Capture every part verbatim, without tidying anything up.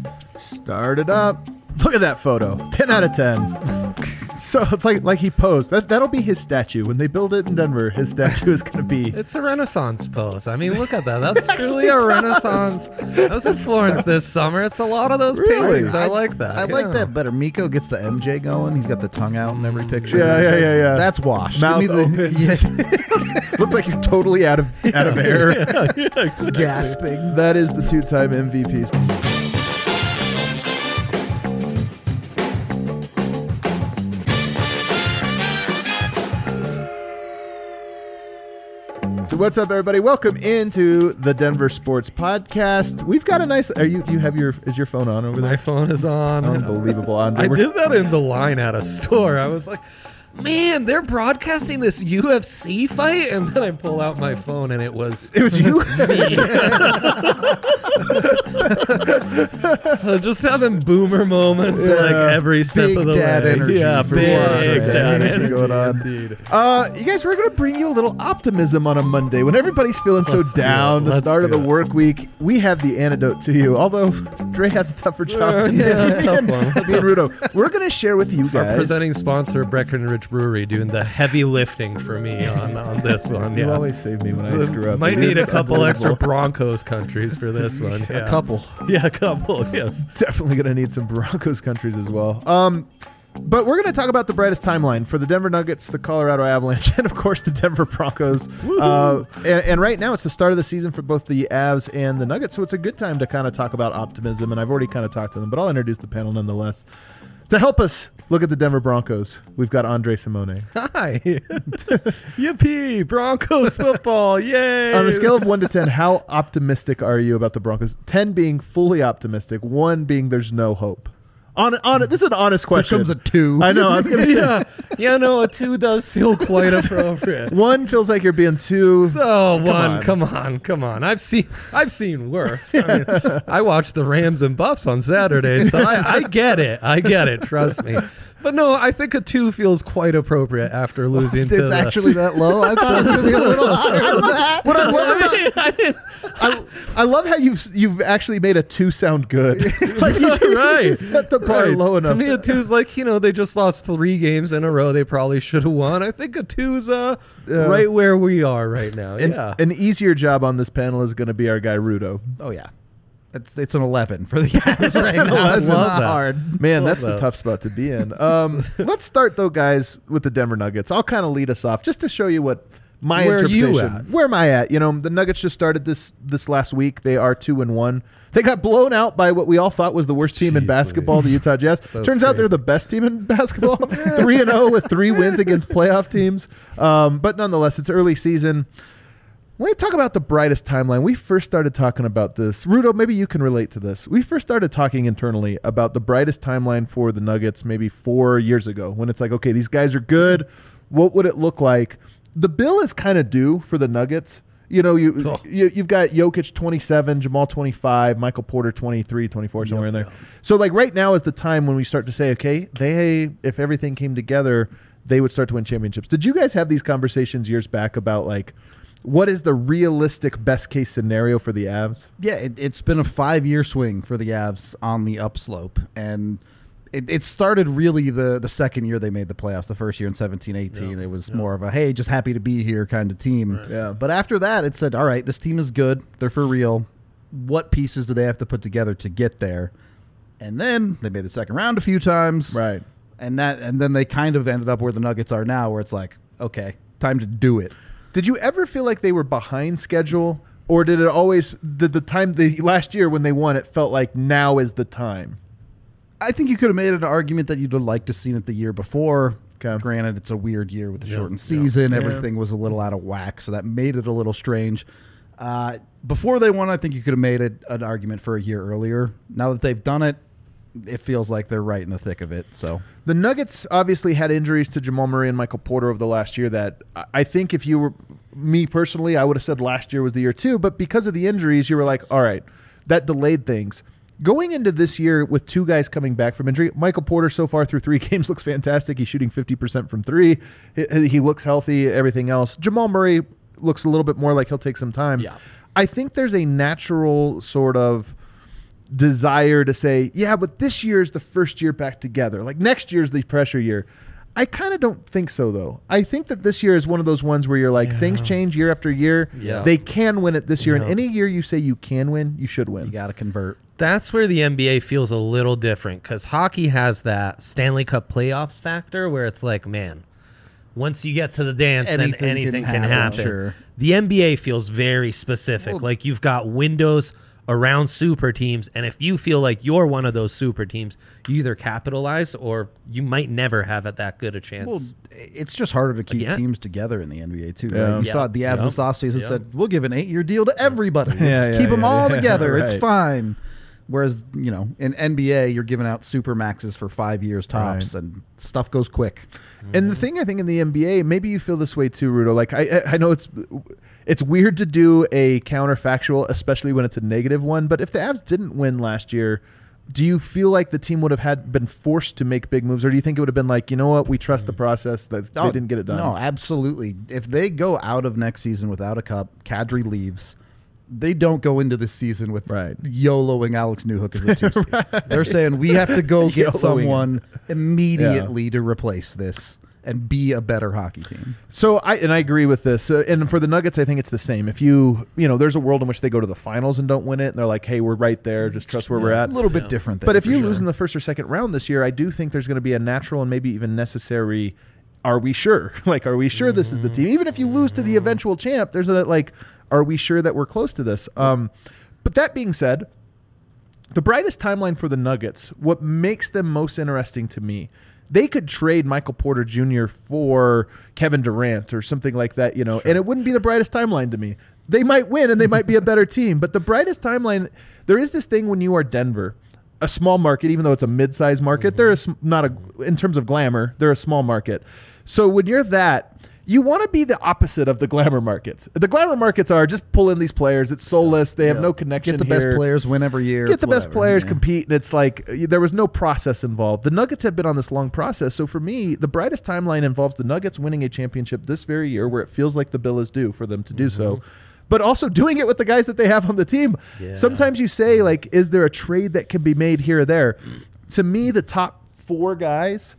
Start it up. Look at that photo. ten out of ten. So it's like like he posed. That, that'll be his statue. When they build it in Denver, his statue is going to be... It's a Renaissance pose. I mean, look at that. That's truly a Renaissance. I was in Florence this summer. It's a lot of those Really? paintings. I, I like that. I yeah. like that better. Miko gets the M J going. He's got the tongue out in every picture. Yeah, yeah, yeah, yeah. That's washed. Mouth Give me open. the Looks like you're totally out of out of air. yeah, yeah, exactly. gasping. That is the two-time M V Ps. So what's up, everybody? Welcome into the Denver Sports Podcast. We've got a nice. Are you? You have your? Is your phone on over there? My phone is on. Unbelievable, Andre. I We're- did that in the line at a store. I was like, man, they're broadcasting this U F C fight? And then I pull out my phone and it was It was you. me. So just having boomer moments Yeah. like every step Big of the dad way. energy Yeah, for big once. dad Energy energy going on. indeed. Uh, you guys, we're going to bring you a little optimism on a Monday when everybody's feeling so Let's do down. it. The Let's start of do the it. work week, we have the antidote to you. Although Dre has a tougher job Uh, than yeah, me tough and, one. me and Rudo. We're going to share with you Our guys. presenting sponsor, Breckenridge Brewery, doing the heavy lifting for me on, on this one. You Yeah. always save me when I screw up. Might It need is a couple extra unbelievable. Broncos countries for this one. Yeah. A couple. Yeah, a couple, yes. Definitely going to need some Broncos countries as well. Um, but we're going to talk about the brightest timeline for the Denver Nuggets, the Colorado Avalanche, and of course the Denver Broncos. Uh, and, and right now it's the start of the season for both the Avs and the Nuggets, so it's a good time to kind of talk about optimism. And I've already kind of talked to them, but I'll introduce the panel nonetheless. To help us look at the Denver Broncos, we've got Andre Simone. Hi. Yippee, Broncos football, yay. On a scale of one to ten, how optimistic are you about the Broncos? ten being fully optimistic, one being there's no hope. On, on this is an honest question. Here comes a two. I know. I was gonna say yeah, yeah, no, a two does feel quite appropriate. one feels like you're being too. Oh, Come one, on. come on, come on. I've seen, I've seen worse. I mean, I watched the Rams and Buffs on Saturday, so I, I get it. I get it. Trust me. But no, I think a two feels quite appropriate after losing. It's to the, actually that low. I thought it was going to be a little higher than that. What I love I mean, I didn't- I, I love how you've you've actually made a two sound good. Like you, Right. you set the bar Right. low enough. To me, a two is like, you know, they just lost three games in a row. They probably should have won. I think a two is uh, Yeah. right where we are right now. An, yeah. an easier job on this panel is going to be our guy Rudo. Oh, yeah. It's, it's an eleven for the Avs right now. I It's love not that. hard. Man, Love that's the that. tough spot to be in. Um, let's start though, guys, with the Denver Nuggets. I'll kind of lead us off just to show you what my Where are you interpretation. at? Where am I at? You know, the Nuggets just started this this last week. They are two and one. They got blown out by what we all thought was the worst team in Jeez basketball, Louise. the Utah Jazz. was Turns out they're crazy. the best team in basketball. Three and zero with three wins against playoff teams. Um, but nonetheless, it's early season. When we talk about the brightest timeline, we first started talking about this. Rudo, maybe you can relate to this. We first started talking internally about the brightest timeline for the Nuggets maybe four years ago when it's like, okay, these guys are good. What would it look like? The bill is kind of due for the Nuggets. You know, you, Oh. you, you've got Jokic twenty-seven, Jamal twenty-five, Michael Porter twenty-three, twenty-four, somewhere in there. So, like, right now is the time when we start to say, okay, they, if everything came together, they would start to win championships. Did you guys have these conversations years back about, like, what is the realistic best case scenario for the Avs? Yeah, it, it's been a five-year swing for the Avs on the upslope. And it, it started really the, the second year they made the playoffs. The first year in seventeen eighteen, Yeah, it was yeah. more of a, hey, just happy to be here kind of team. Right. Yeah. But after that, it said, all right, this team is good. They're for real. What pieces do they have to put together to get there? And then they made the second round a few times. Right. And that, and then they kind of ended up where the Nuggets are now, where it's like, okay, time to do it. Did you ever feel like they were behind schedule? Or did it always, did the time, the last year when they won, it felt like now is the time? I think you could have made an argument that you'd have liked to have seen it the year before. Okay. Granted, it's a weird year with the Yeah, shortened yeah. season. Yeah. Everything was a little out of whack, so that made it a little strange. Uh, before they won, I think you could have made it an argument for a year earlier. Now that they've done it, it feels like they're right in the thick of it. So The Nuggets obviously had injuries to Jamal Murray and Michael Porter over the last year that I- I think if you were me personally, I would have said last year was the year too. But because of the injuries, you were like, all right, that delayed things. Going into this year with two guys coming back from injury, Michael Porter so far through three games looks fantastic. He's shooting fifty percent from three. He, he looks healthy, everything else. Jamal Murray looks a little bit more like he'll take some time. Yeah. I think there's a natural sort of desire to say, yeah, but this year is the first year back together. Like next year's the pressure year. I kind of don't think so, though. I think that this year is one of those ones where you're like, Yeah. things change year after year. Yeah. They can win it this year. Yeah. And any year you say you can win, you should win. You got to convert. That's where the N B A feels a little different because hockey has that Stanley Cup playoffs factor where it's like, man, once you get to the dance, Anything then anything can can, happen, happen. sure. The N B A feels very specific. Well- like you've got windows around super teams, and if you feel like you're one of those super teams, you either capitalize or you might never have it that good a chance. Well, it's just harder to keep Again? teams together in the N B A too. Yeah. Right? You Yeah. saw the Avs Yeah. this offseason Yeah. said, "We'll give an eight-year deal to everybody. Let's Yeah, yeah, keep them yeah, all yeah. together. It's Right. fine." Whereas, you know, in N B A, you're giving out super maxes for five years tops, Right. and stuff goes quick. And the thing I think in the N B A, maybe you feel this way too, Rudo. Like I, I know it's it's weird to do a counterfactual, especially when it's a negative one. But if the Avs didn't win last year, do you feel like the team would have had been forced to make big moves, or do you think it would have been like, you know what, we trust the process that Oh, they didn't get it done? No, absolutely. If they go out of next season without a cup, Kadri leaves. They don't go into this season with Right. YOLOing Alex Newhook as a two seed. They're saying we have to go get YOLOing someone immediately to replace this and be a better hockey team. So I and I agree with this. Uh, and for the Nuggets, I think it's the same. If you you know, there's a world in which they go to the finals and don't win it, and they're like, hey, we're right there. Just trust where we're A at. little bit Yeah. different. There, But if for you sure. lose in the first or second round this year, I do think there's going to be a natural and maybe even necessary. Are we sure? Like, are we sure this is the team? Even if you lose to the eventual champ, there's a like, are we sure that we're close to this? Um, but that being said, the brightest timeline for the Nuggets, what makes them most interesting to me, they could trade Michael Porter Junior for Kevin Durant or something like that, you know, and it wouldn't be the brightest timeline to me. They might win and they might be a better team, but the brightest timeline, there is this thing when you are Denver, a small market, even though it's a mid-sized market, Mm-hmm. they're a, sm- not a, in terms of glamour, they're a small market. So when you're that, you want to be the opposite of the glamour markets. The glamour markets are just pull in these players. It's soulless. They have Yeah. no connection Get the here. best players win every year. Get It's the best whatever. players, Yeah. compete, and it's like uh, there was no process involved. The Nuggets have been on this long process. So for me, the brightest timeline involves the Nuggets winning a championship this very year where it feels like the bill is due for them to do so. But also doing it with the guys that they have on the team. Yeah. Sometimes you say, like, is there a trade that can be made here or there? To me, the top four guys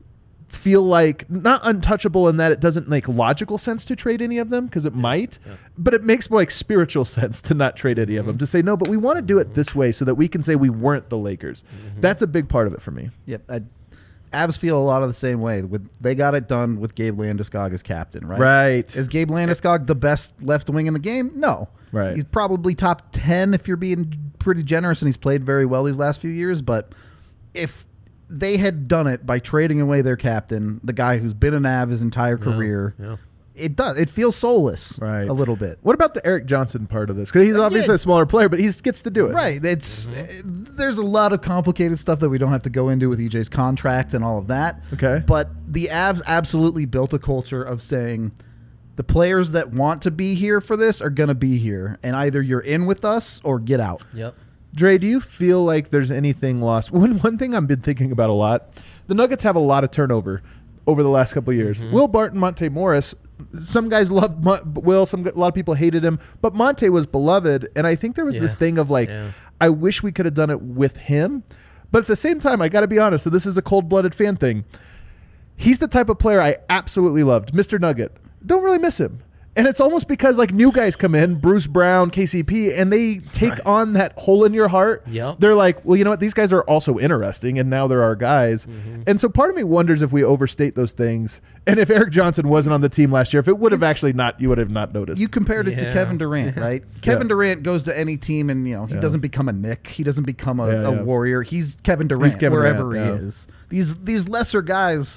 feel like not untouchable in that it doesn't make logical sense to trade any of them because it might, yeah. but it makes more like spiritual sense to not trade any of them, to say no, but we want to do it this way so that we can say we weren't the Lakers. That's a big part of it for me. Yep. I, Avs feel a lot of the same way. With they got it done with Gabe Landeskog as captain, right? Right. Is Gabe Landeskog the best left wing in the game? No. Right. He's probably top ten if you're being pretty generous, and he's played very well these last few years. But if they had done it by trading away their captain, the guy who's been an Av his entire career, Yeah. it does. It feels soulless, Right. a little bit. What about the Eric Johnson part of this? Because he's Uh, obviously yeah. a smaller player, but he gets to do it. Right. It's uh, there's a lot of complicated stuff that we don't have to go into with E J's contract and all of that. Okay. But the Avs absolutely built a culture of saying the players that want to be here for this are going to be here, and either you're in with us or get out. Yep. Dre, do you feel like there's anything lost? One one thing I've been thinking about a lot, the Nuggets have a lot of turnover over the last couple of years. Will Barton, Monte Morris, some guys loved Mon- Will, some a lot of people hated him, but Monte was beloved, and I think there was this Yeah. thing of like, Yeah. I wish we could have done it with him, but at the same time, I got to be honest. So this is a cold-blooded fan thing. He's the type of player I absolutely loved, Mister Nugget. Don't really miss him. And it's almost because like new guys come in, Bruce Brown, K C P, and they take Right. on that hole in your heart. Yep. They're like, well, you know what? These guys are also interesting, and now they're our guys. And so part of me wonders if we overstate those things. And if Eric Johnson wasn't on the team last year, if it would have It's- actually not, you would have not noticed. You compared it to Yeah. Kevin Durant, right? Kevin Yeah. Durant goes to any team, and you know he Yeah. doesn't become a Nick. He doesn't become a, Yeah, a yeah. warrior. He's Kevin Durant Kevin wherever Durant, he yeah. is. These these lesser guys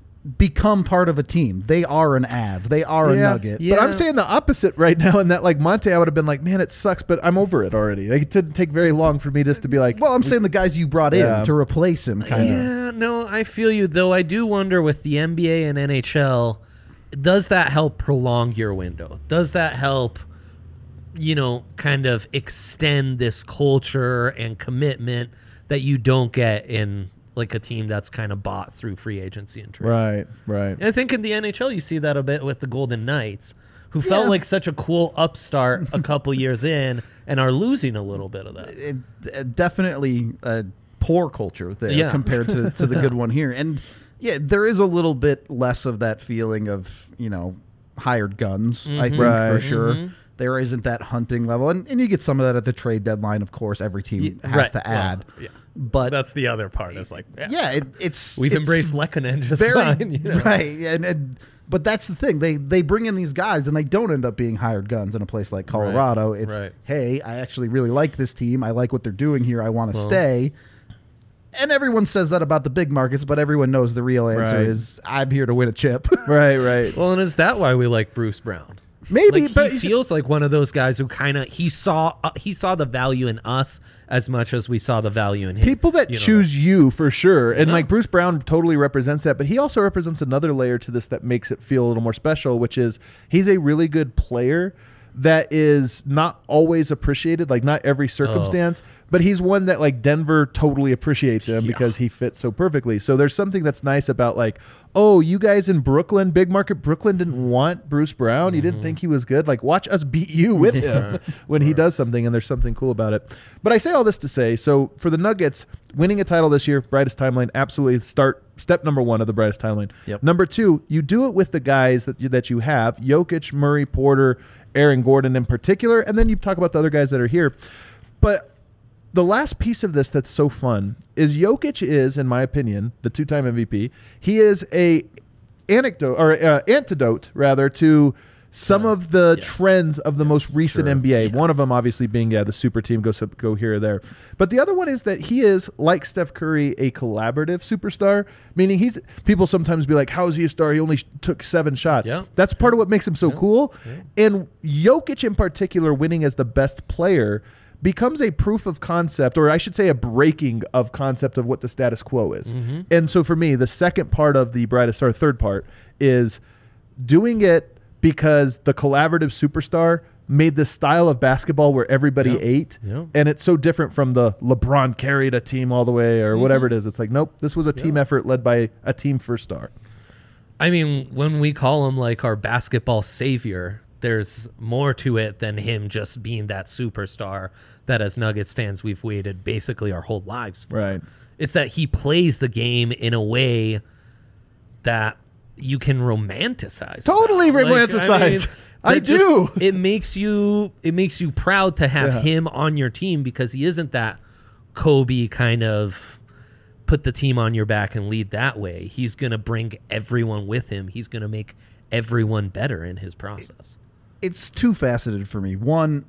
become part of a team. They are an Av. They are a Yeah. Nugget. Yeah. But I'm saying the opposite right now, in that like Monte, I would have been like, man, it sucks, but I'm over it already. Like, it didn't take very long for me just to be like, Well, I'm saying the guys you brought in Yeah. to replace him, kind of. Yeah, no, I feel you. Though I do wonder with the N B A and N H L, does that help prolong your window? Does that help, you know, kind of extend this culture and commitment that you don't get in like a team that's kind of bought through free agency and trade? right, right. And I think in the N H L you see that a bit with the Golden Knights, who felt Yeah. like such a cool upstart a couple years in and are losing a little bit of that. It, it definitely a poor culture there Yeah. compared to, to the good one here. And yeah, there is a little bit less of that feeling of, you know, hired guns, I think, Right. for sure. Mhm. There isn't that hunting level. And, and you get some of that at the trade deadline, of course. Every team Y- has right. to add. Well, yeah. But That's the other part. Is like, yeah, yeah, it, it's we've it's embraced Lehkonen just very fine. You know? right. And, and but that's the thing. They they bring in these guys and they don't end up being hired guns in a place like Colorado. It's right. hey, I actually really like this team. I like what they're doing here. I want to Well- stay. And everyone says that about the big markets, but everyone knows the real answer Right. is I'm here to win a chip. Right, right. Well, and is that why we like Bruce Brown? Maybe, Like, but he feels like one of those guys who kind of he saw uh, he saw the value in us as much as we saw the value in him. people that You know, choose you for sure, and Yeah. like Bruce Brown totally represents that, but he also represents another layer to this that makes it feel a little more special, which is he's a really good player that is not always appreciated, like not every circumstance, but he's one that like Denver totally appreciates him Yeah. because he fits so perfectly. So there's something that's nice about like, oh, you guys in Brooklyn, big market Brooklyn didn't want Bruce Brown. You didn't think he was good. Like watch us beat you with him when he does something, and there's something cool about it. But I say all this to say, so for the Nuggets, winning a title this year, brightest timeline, absolutely start step number one of the brightest timeline. Yep. Number two, you do it with the guys that you, that you have, Jokic, Murray, Porter, Aaron Gordon in particular, and then you talk about the other guys that are here. But the last piece of this that's so fun is Jokic is, in my opinion, the two-time M V P. He is a anecdote or uh, antidote rather to some Uh, of the yes. trends of the most recent Sure. N B A. Yes. One of them obviously being yeah the super team go sub- go here or there, but the other one is that he is like Steph Curry, a collaborative superstar. Meaning he's people sometimes be like, "How is he a star? He only sh- took seven shots." Yeah. That's part of what makes him so cool. And Jokic in particular, winning as the best player, becomes a proof of concept, or I should say a breaking of concept of what the status quo is. Mm-hmm. And so for me, the second part of the brightest, or third part, is doing it because the collaborative superstar made this style of basketball where everybody Yep. ate. Yep. And it's so different from the LeBron carried a team all the way or whatever it is. It's like, nope, this was a team Yeah. effort led by a team first star. I mean, when we call him like our basketball savior, there's more to it than him just being that superstar that as Nuggets fans we've waited basically our whole lives for. Right. It's that he plays the game in a way that you can romanticize. Totally about. romanticize. I that do. It makes you it makes you proud to have Yeah. him on your team because he isn't that Kobe kind of put the team on your back and lead that way. He's going to bring everyone with him. He's going to make everyone better in his process. It's two faceted for me. One,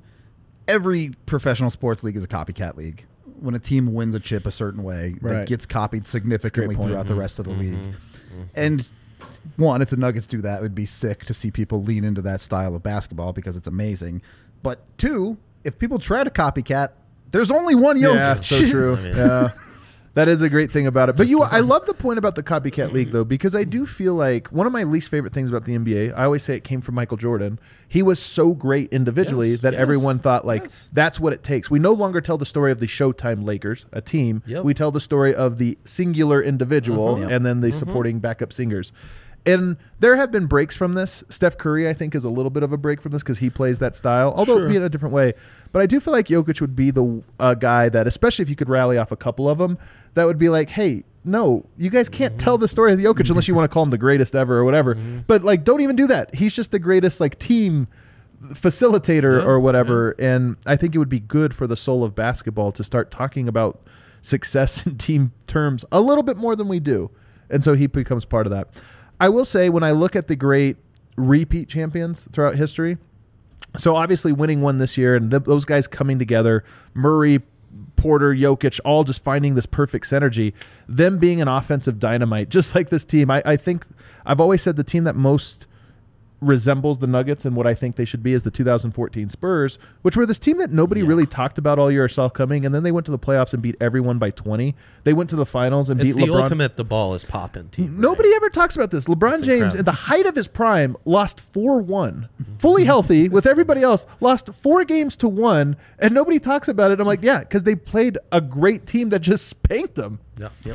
every professional sports league is a copycat league. When a team wins a chip a certain way, Right. that gets copied significantly point. throughout the rest of the league. And one, if the Nuggets do that, it would be sick to see people lean into that style of basketball because it's amazing. But two, if people try to copycat, there's only one Jokic. Yeah, so true. I mean- Yeah. That is a great thing about it. But you, I love the point about the copycat league, though, because I do feel like one of my least favorite things about the N B A, I always say it came from Michael Jordan. He was so great individually Yes, that yes, everyone thought, like, yes. that's what it takes. We no longer tell the story of the Showtime Lakers, a team. Yep. We tell the story of the singular individual Uh-huh. and then the supporting backup singers. And there have been breaks from this. Steph Curry, I think, is a little bit of a break from this because he plays that style, although Sure. it'd be in a different way. But I do feel like Jokic would be the uh, guy that, especially if you could rally off a couple of them, that would be like, hey, no, you guys can't tell the story of Jokic unless you want to call him the greatest ever or whatever. But like, don't even do that. He's just the greatest like team facilitator Yeah, or whatever. And I think it would be good for the soul of basketball to start talking about success in team terms a little bit more than we do. And so he becomes part of that. I will say, when I look at the great repeat champions throughout history, so obviously winning one this year and th- those guys coming together, Murray, Porter, Jokic, all just finding this perfect synergy, them being an offensive dynamite, just like this team. I, I think I've always said the team that most resembles the Nuggets and what I think they should be is the two thousand fourteen Spurs, which were this team that nobody Yeah. really talked about all year or saw coming, and then they went to the playoffs and beat everyone by twenty. They went to the finals and It's beat the LeBron. ultimate the ball is popping team. Nobody right? ever talks about this. LeBron That's James, incredible. at the height of his prime, lost four one. Fully healthy with everybody else, lost four games to one, and nobody talks about it. I'm like, yeah, because they played a great team that just spanked them. Yeah. Yep.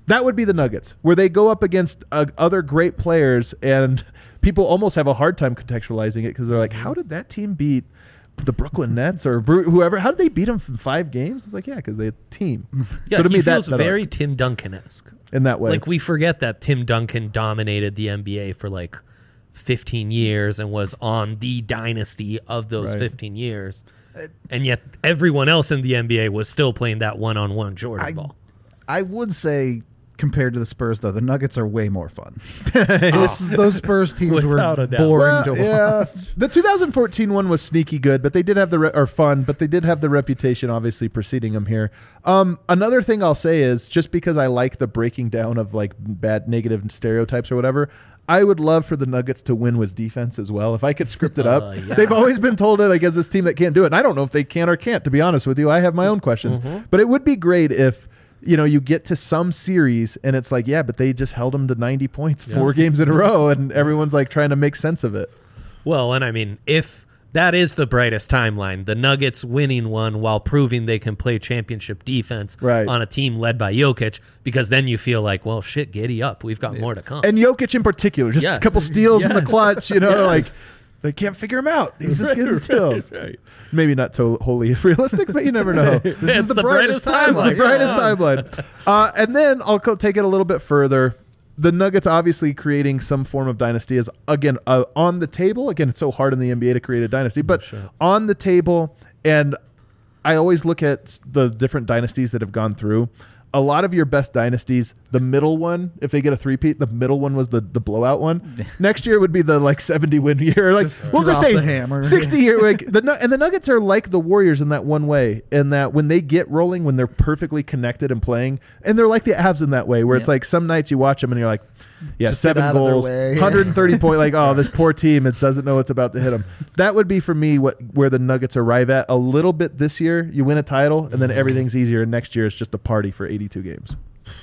That would be the Nuggets, where they go up against uh, other great players, and people almost have a hard time contextualizing it because they're like, how did that team beat the Brooklyn Nets or Bru- whoever? How did they beat them in five games? It's like, yeah, because they team. Yeah, so to he me, feels that, that very Tim Duncan-esque. in that way. Like, we forget that Tim Duncan dominated the N B A for like fifteen years and was on the dynasty of those Right. fifteen years. And yet everyone else in the N B A was still playing that one-on-one Jordan I, ball. I would say, compared to the Spurs, though, the Nuggets are way more fun. This- those Spurs teams Without were a doubt. boring Well, to watch. yeah, the two thousand fourteen one was sneaky good, but they did have the re- or fun, but they did have the reputation obviously preceding them here. Um, another thing I'll say is just because I like the breaking down of like bad negative stereotypes or whatever, I would love for the Nuggets to win with defense as well. If I could script it up, Uh, yeah. they've always been told that like as this team that can't do it. And I don't know if they can or can't. To be honest with you, I have my own questions, but it would be great if. You know, you get to some series and it's like, yeah, but they just held them to ninety points four games in a row, and everyone's like trying to make sense of it. Well, and I mean, if that is the brightest timeline, the Nuggets winning one while proving they can play championship defense Right. on a team led by Jokic, because then you feel like, well, shit, giddy up. We've got more to come. And Jokic in particular, just Yes. a couple steals in the Yes. clutch, you know, Yes. like they can't figure him out. He's just getting Right, steals. right, right. Maybe not to- wholly realistic, but you never know. This It's the brightest timeline. The brightest timeline. Uh, and then I'll co- take it a little bit further. The Nuggets obviously creating some form of dynasty is, again, uh, on the table. Again, it's so hard in the N B A to create a dynasty, but on the table. And I always look at the different dynasties that have gone through. A lot of your best dynasties, the middle one, if they get a three-peat, the middle one was the, the blowout one. Next year would be the like seventy win year. Like we'll just drop say the hammer. sixty year. Like the Nu- and the Nuggets are like the Warriors in that one way, in that when they get rolling, when they're perfectly connected and playing, and they're like the Avs in that way, where it's Yeah. like some nights you watch them and you're like, yeah, Just get seven out of their goals, way. one hundred thirty point. Like, oh, this poor team, it doesn't know what's about to hit them. That would be for me what where the Nuggets arrive at a little bit this year. You win a title, and then everything's easier. And next year it's just a party for eighty-two games.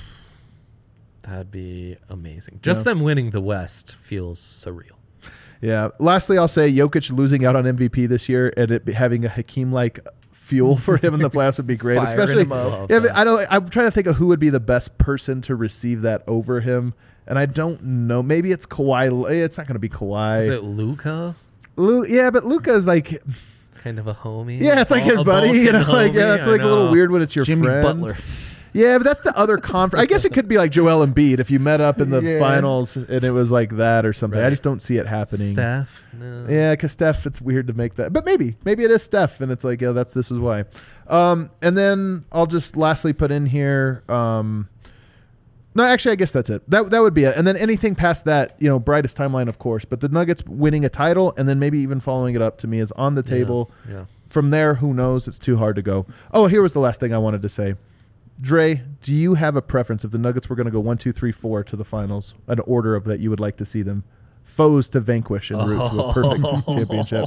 That'd be amazing. Just Yeah. them winning the West feels surreal. Yeah. Lastly, I'll say Jokic losing out on M V P this year and it be having a Hakeem like fuel for him in the playoffs would be great. Firing Especially, him up. yeah, but I don't. I'm trying to think of who would be the best person to receive that over him, and I don't know. Maybe it's Kawhi. It's not going to be Kawhi. Is it Luca? Lu- yeah, but Luca's like, Kind of a homie. yeah, it's like A- his a buddy. You know, Balkan like yeah, homie, it's I like a little know. weird when it's your Jimmy friend. Butler. Yeah, but that's the other conference. I guess it could be like Joel Embiid if you met up in the Yeah. finals and it was like that or something. I Right. just don't see it happening. Steph? No. Yeah, because Steph, it's weird to make that, but maybe, maybe it is Steph, and it's like, yeah, that's this is why. Um, and then I'll just lastly put in here. Um, no, actually, I guess that's it. That that would be it. And then anything past that, you know, brightest timeline, of course. But the Nuggets winning a title and then maybe even following it up to me is on the table. Yeah. From there, who knows? It's too hard to go. Oh, here was the last thing I wanted to say. Dre, do you have a preference if the Nuggets were going to go one, two, three, four to the finals, an order of that you would like to see them? Foes to vanquish en route to a perfect championship.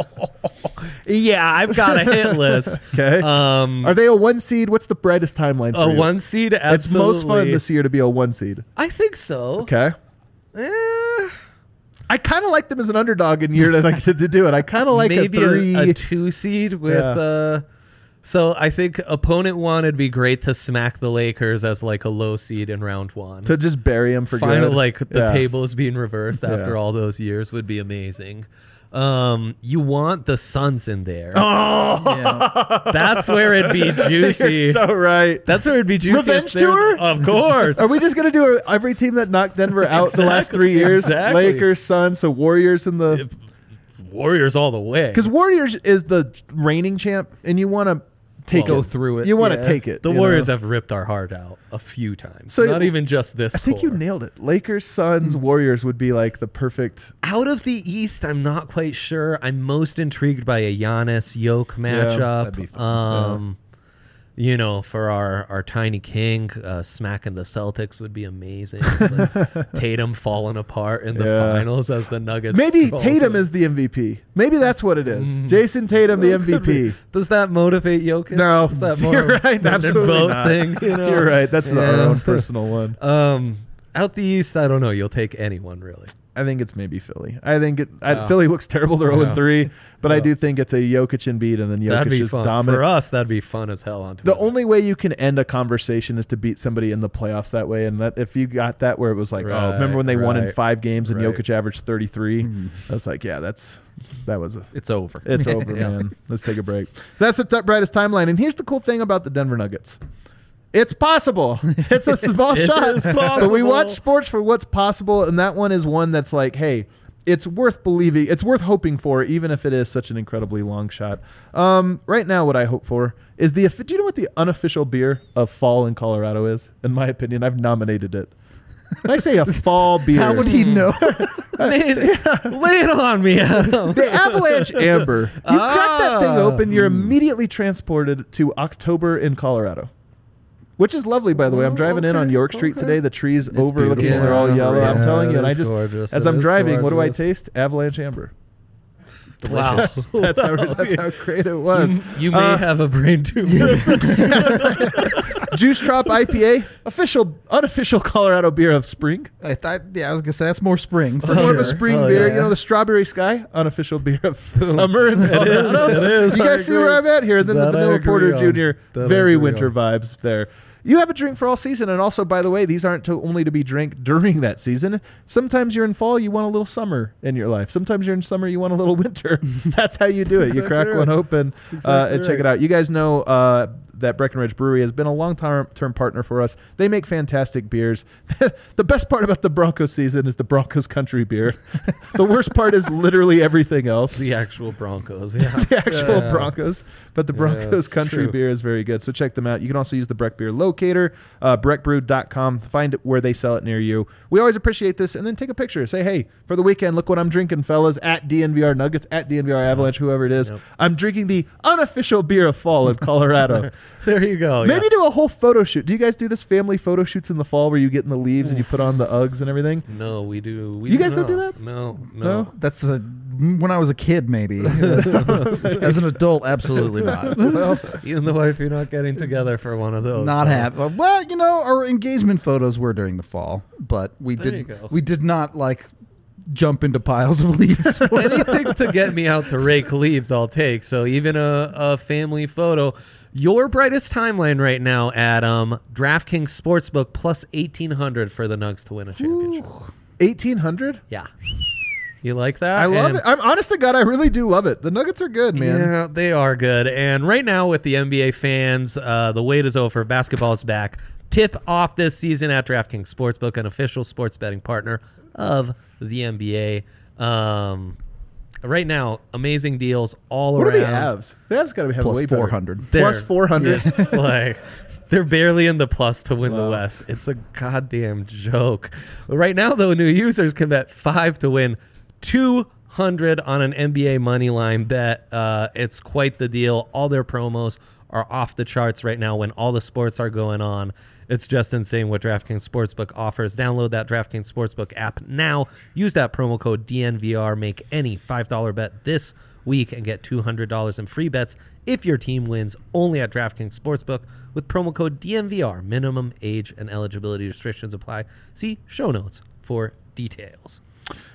Yeah, I've got a hit list. Okay. Um, Are they a one seed? What's the brightest timeline for a you? one seed? Absolutely. It's most fun this year to be a one seed. I think so. Okay. Eh, I kind of like them as an underdog in year to like to, to do it. I kind of like maybe a three. a, two seed with. Yeah. Uh, so I think opponent one would be great to smack the Lakers as like a low seed in round one. to just bury them for Final good. like the Yeah. tables being reversed after Yeah. all those years would be amazing. Um, you want the Suns in there. Oh, Yeah. That's where it'd be juicy. you're so right. That's where it'd be juicy. if Revenge they're- tour? Of course. Are we just gonna do a, every team that knocked Denver out the last three years? exactly. Lakers, Suns, so Warriors in the Warriors all the way. because Warriors is the reigning champ, and you want to take Well, it. Go through it. You want to Yeah. take it. the you Warriors know? have ripped our heart out a few times. So Not it- even just this. I think you core. nailed it. Lakers, Suns, Warriors would be like the perfect. Out of the East, I'm not quite sure. I'm most intrigued by a Giannis Yoke matchup. that'd be fun. Um, you know, for our our tiny king, uh, smacking the Celtics would be amazing. Like, Tatum falling apart in the Yeah. finals as the Nuggets. Maybe fall Tatum to- is the M V P. Maybe that's what it is. Jason Tatum, the M V P. Does that motivate Jokic? No, Is that more you're right. an Absolutely vote not. thing? You know? You're right. That's our Yeah. own personal one. Um, out the East, I don't know. You'll take anyone really. I think it's maybe Philly. I think it, I, Yeah. Philly looks terrible. They're zero Yeah. and three, but I Yeah. do think it's a Jokic Embiid, and then That'd Jokic be is fun dominant. for us. That'd be fun as hell on The Twitter. only way you can end a conversation is to beat somebody in the playoffs that way. And that if you got that where it was like, oh, Right, remember when they won in right, five games and right. Jokic averaged thirty-three? I was like, yeah, that's that was a, it's over. it's over, Yeah. man. Let's take a break. That's the t- brightest timeline. And here's the cool thing about the Denver Nuggets. It's possible. It's a small It shot. is But we possible. watch sports for what's possible, and that one is one that's like, hey, it's worth believing. It's worth hoping for, even if it is such an incredibly long shot. Um, right now, what I hope for is the. Do you know what the unofficial beer of fall in Colorado is? In my opinion, I've nominated it. When I say a fall beer, How would he know? Man, lay it on me, Adam. the Avalanche Amber. You crack that thing Ah. open, you're immediately transported to October in Colorado. Which is lovely, by the way. I'm Oh, driving in on okay, York Street okay. today. The trees overlooking, beautiful. they're all Yeah, yellow. I'm yeah, telling you. it And I is just, gorgeous. as It I'm is driving, what do I gorgeous. taste? Avalanche Amber. Wow. That's how that's how great it was. You, you may Uh, have a brain tumor. Juice Drop I P A, official, unofficial Colorado beer of spring. I thought, yeah, I was gonna say that's more spring. It's for more of a sure. spring Oh, beer. yeah. You know, the Strawberry Sky, unofficial beer of summer in Colorado. it is, You I guys see where agree. I'm at here? And then That the I Vanilla agree Porter on. Junior, That I very agree winter on. vibes there. You have a drink for all season, and also, by the way, these aren't to only to be drank during that season. Sometimes you're in fall, you want a little summer in your life. Sometimes you're in summer, you want a little winter. That's how you do it. You exactly crack right. one open That's uh, exactly and check right. it out. You guys know uh, that Breckenridge Brewery has been a long-term term partner for us. They make fantastic beers. The best part about the Broncos season is the Broncos country beer. The worst part is literally everything else. the actual Broncos. Yeah. The actual Yeah. Broncos, but the Yeah, Broncos it's country true. beer is very good. So check them out. You can also use the Breck Beer Locator, uh, breck brew dot com. Find it where they sell it near you. We always appreciate this, and then take a picture. Say, hey, for the weekend, look what I'm drinking, fellas. At D N V R Nuggets, at D N V R Avalanche, whoever it is. Yep. I'm drinking the unofficial beer of fall in Colorado. There you go. Maybe yeah. do a whole photo shoot. Do you guys do this family photo shoots in the fall where you get in the leaves and you put on the Uggs and everything? No, we do. We You guys don't do not. that? No, No? no. That's a, when I was a kid, maybe. As an adult, absolutely not. Well, You and the wife, you're not getting together for one of those. Not so. happy. Well, you know, our engagement photos were during the fall, but we There did you go. we did not like jump into piles of leaves. Anything to get me out to rake leaves, I'll take. So even a, a family photo. Your brightest timeline right now, Adam. DraftKings Sportsbook plus eighteen hundred for the Nugs to win a championship. eighteen hundred? Yeah. You like that? I love And- it. I'm honest to God, I really do love it. The Nuggets are good, man. Yeah, they are good. And right now, with the N B A fans, uh, the wait is over. Basketball is back. Tip off this season at DraftKings Sportsbook, an official sports betting partner of the N B A. Um, right now, amazing deals all What around. are the Avs? The Avs got to have Plus way better. four hundred. Plus They're- four hundred. It's like they're barely in the plus to win the Wow. West. It's a goddamn joke. Right now, though, new users can bet five to win two hundred on an N B A money line bet. Uh, it's quite the deal. All their promos are off the charts right now when all the sports are going on. It's just insane what DraftKings Sportsbook offers. Download that DraftKings Sportsbook app now. Use that promo code D N V R. Make any five dollar bet this week and get two hundred dollars in free bets if your team wins, only at DraftKings Sportsbook with promo code D N V R. Minimum age and eligibility restrictions apply. See show notes for details.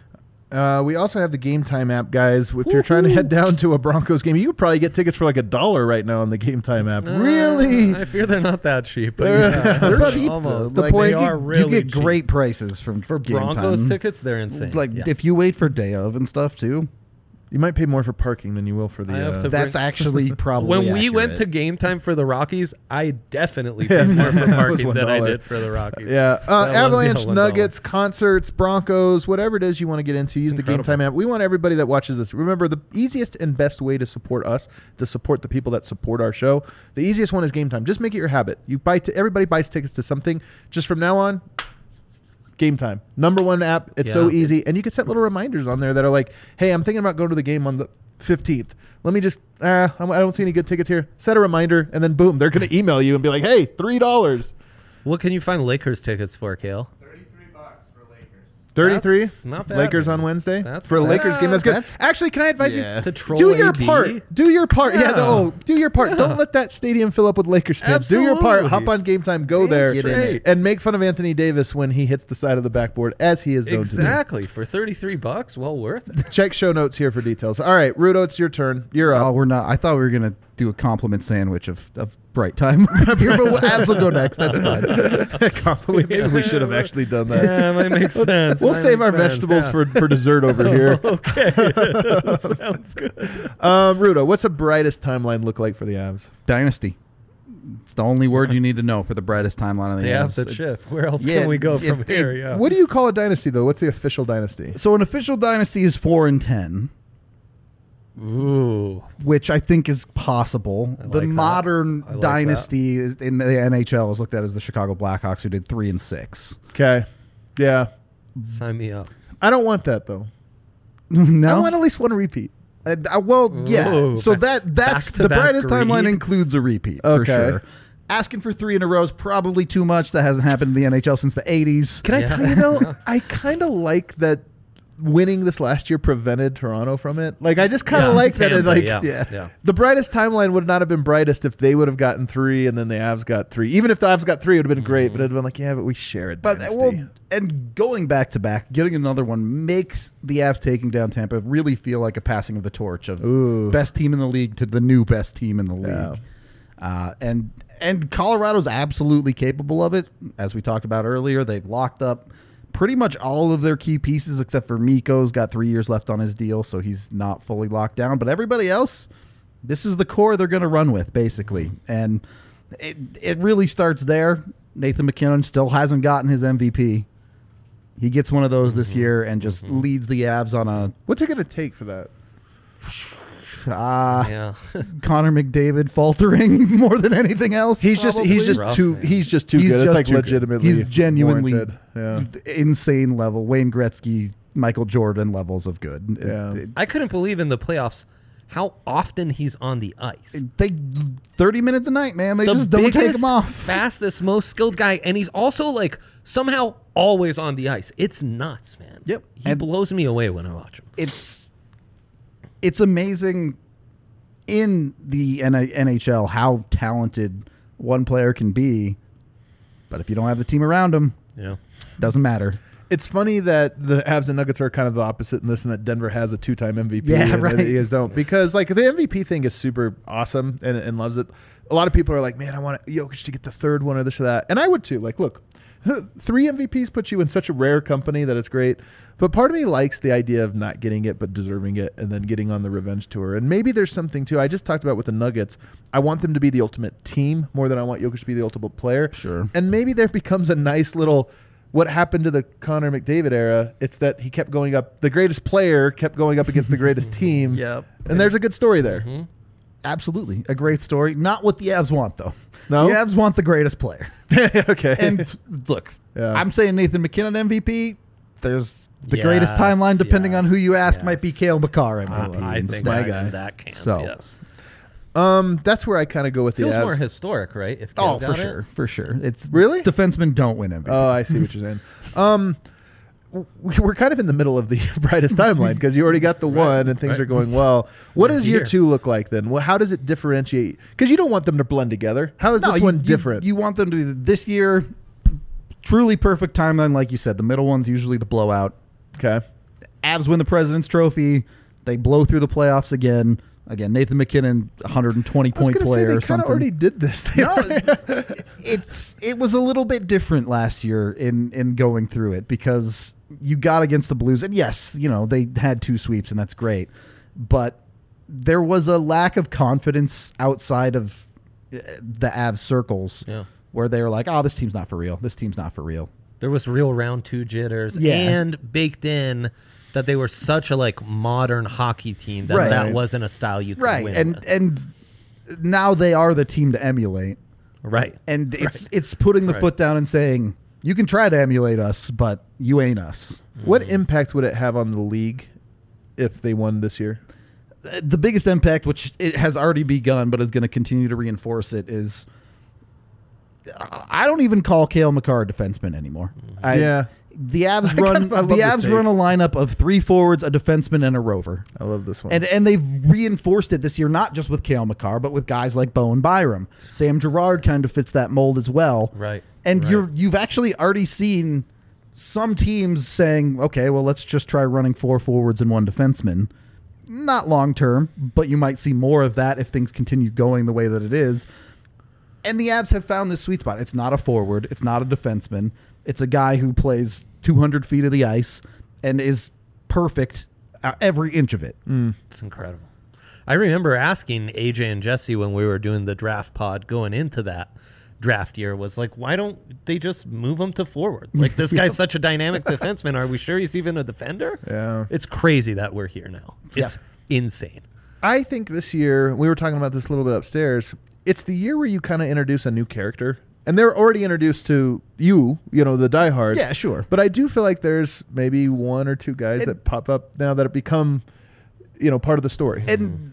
Uh, we also have the Game Time app, guys. If you're trying to head down to a Broncos game, you could probably get tickets for like a dollar right now on the Game Time app. really? Uh, I fear they're not that cheap. But They're- yeah, they're they're cheap, almost. though. The Like, point- they you are you really get cheap. great prices from for game Broncos time. tickets. They're insane. Like Yeah. if you wait for day of and stuff too, You might pay more for parking than you will for the. I have uh, to that's bring- actually probably when we went to accurate. game time for the Rockies, I definitely Yeah, paid more for that was parking than I one dollar. did for the Rockies. Yeah, uh, That was, Avalanche, yeah, one dollar. Nuggets, concerts, Broncos, whatever it is you want to get into, use the Game incredible. Time app. We want everybody that watches this. Remember, the easiest and best way to support us, to support the people that support our show, the easiest one is Game Time. Just make it your habit. You buy. T- everybody buys tickets to something. Just from now on, Game Time, number one app. It's so Yeah. easy, and you can set little reminders on there that are like, "Hey, I'm thinking about going to the game on the fifteenth. Let me just, uh, I don't see any good tickets here. Set a reminder, and then boom, they're going to email you and be like, "Hey, three dollars." What can you find Lakers tickets for, Kale? thirty-three bucks for Lakers. thirty-three. That's not bad, Lakers man. on Wednesday That's for a not Lakers bad. game. That's good. That's- Actually, can I advise Yeah. you To troll do your A D? part? Do your part. Yeah, Yeah. no, do your part. Don't let that stadium fill up with Lakers fans. Do your part. Absolutely. Hop on Game Time. Go Damn there straight. and make fun of Anthony Davis when he hits the side of the backboard, as he is known to Exactly. For thirty-three bucks, well worth it. do. Check show notes here for details. All right, Rudo, it's your turn. You're Oh, up. we're not. I thought we were gonna do a compliment sandwich of, of bright time up here, but Abs will go next. That's fine. Compliment. Maybe we should have actually done that. Yeah, might make sense. We'll Might save make our sense. vegetables Yeah. for, for dessert over here. Okay. Sounds good. Um, Rudo, what's the brightest timeline look like for the Avs? Dynasty. It's the only word you need to know for the brightest timeline of the They have Avs. the chip. Where else Yeah, can we go it- from it- here? Yeah. What do you call a dynasty, though? What's the official dynasty? So an official dynasty is four and ten, Ooh. which I think is possible. I the like that. modern I like dynasty is- in the N H L is looked at as the Chicago Blackhawks, who did three and six. Okay. Yeah. Sign me up. I don't want that, though. no, I want at least one repeat. Uh, uh, well, yeah. Ooh, so back- that that's the back-to-back brightest timeline greed. includes a repeat for Okay. sure. Asking for three in a row is probably too much. That hasn't happened in the N H L since the eighties. Can I Yeah. tell you, though, I kind of like that winning this last year prevented Toronto from it. Like, I just kind of Yeah, like that. It, Tampa, like, yeah, yeah. yeah. the brightest timeline would not have been brightest if they would have gotten three and then the Avs got three. Even if the Avs got three, it would have been great, but it would have been like, yeah, but we share it. But uh, well, and going back to back, getting another one makes the Avs taking down Tampa really feel like a passing of the torch of Ooh. best team in the league to the new best team in the league. Yeah. Uh, and and Colorado's absolutely capable of it. As we talked about earlier, they've locked up pretty much all of their key pieces except for Mikko's got three years left on his deal, so he's not fully locked down. But everybody else, this is the core they're going to run with, basically. And it it really starts there. Nathan McKinnon still hasn't gotten his M V P. He gets one of those this year and just leads the Avs on a what's it going to take for that? uh, Yeah. Connor McDavid faltering more than anything else. He's just he's just Rough, too man. he's just too He's good. just It's like too good. legitimately He's genuinely warranted. Yeah. insane level. Wayne Gretzky, Michael Jordan levels of good. Yeah. It- I couldn't believe in the playoffs how often he's on the ice. it- they thirty minutes a night, man. They the just don't take biggest, him off. fastest, most skilled guy, and he's also like somehow always on the ice. It's nuts, man. Yep. He And- blows me away when I watch him. It's it's amazing in the N H L how talented one player can be, but if you don't have the team around him, Yeah. doesn't matter. It's funny that the Avs and Nuggets are kind of the opposite in this, and that Denver has a two-time M V P. Yeah, and right. You guys don't, because like the M V P thing is super awesome and, and loves it. A lot of people are like, man, I want Jokic to get the third one or this or that, and I would too. Like, look, three M V Ps puts you in such a rare company that it's great. But part of me likes the idea of not getting it but deserving it, and then getting on the revenge tour. And maybe there's something too. I just talked about with the Nuggets. I want them to be the ultimate team more than I want Jokic to be the ultimate player. Sure. And maybe there becomes a nice little. What happened to the Connor McDavid era? It's that he kept going up. The greatest player kept going up against the greatest team. Yep. And there's a good story there. Mm-hmm. Absolutely. A great story. Not what the Avs want, though. No? The Avs want the greatest player. Okay. And look, Yeah. I'm saying Nathan McKinnon M V P. There's the greatest Yes, timeline, depending on who you yes, ask, might be yes. Kale McCarr M V P. I, I think my I'm guy. in that camp. So. Yes. um, that's where I kind of go with the Feels Avs. more historic, right? If Oh, Kale for got it? sure, for sure. It's Really? defensemen don't win M V P. Oh, I see what you're saying. Um, w- we're kind of in the middle of the brightest timeline because you already got the one and things right. are going well. What We're does year here. two look like then? Well, how does it differentiate? Because you don't want them to blend together. How is No, this you- one you- different? You want them to be this year. Truly perfect timeline, like you said. The middle one's usually the blowout. okay. Avs win the President's Trophy. They blow through the playoffs again. Again, Nathan McKinnon, one hundred twenty I was point going to say player they or kind of something. already did this. They No, are- it's it was a little bit different last year in in going through it because you got against the Blues, and yes, you know they had two sweeps, and that's great, but there was a lack of confidence outside of uh, the Avs circles Yeah. where they were like, "Oh, this team's not for real. This team's not for real." There was real round two jitters, Yeah. and baked in that they were such a like modern hockey team that Right. that wasn't a style you could Right, win and with. and now they are the team to emulate, right. and it's Right. it's putting the Right. foot down and saying, "You can try to emulate us, but you ain't us." what impact would it have on the league if they won this year? The biggest impact, which it has already begun, but is going to continue to reinforce it, is I don't even call Kale McCarr a defenseman anymore. I, Yeah. The Avs run. I love the this Avs take. run a lineup of three forwards, a defenseman, and a rover. I love this one. And and they've reinforced it this year, not just with Cale Makar, but with guys like Bowen Byram. Sam Girard kind of fits that mold as well. Right. And right. you're you've actually already seen some teams saying, okay, well, let's just try running four forwards and one defenseman. Not long term, but you might see more of that if things continue going the way that it is. And the Avs have found this sweet spot. It's not a forward. It's not a defenseman. It's a guy who plays two hundred feet of the ice and is perfect uh, every inch of it. Mm. It's incredible. I remember asking A J and Jesse when we were doing the draft pod going into that draft year was like, why don't they just move him to forward? Like, this guy's such a dynamic defenseman. Are we sure he's even a defender? Yeah. It's crazy that we're here now. It's insane. I think this year, we were talking about this a little bit upstairs, it's the year where you kind of introduce a new character. And they're already introduced to you, you know, the diehards. Yeah, sure. But I do feel like there's maybe one or two guys It- that pop up now that have become, you know, part of the story. And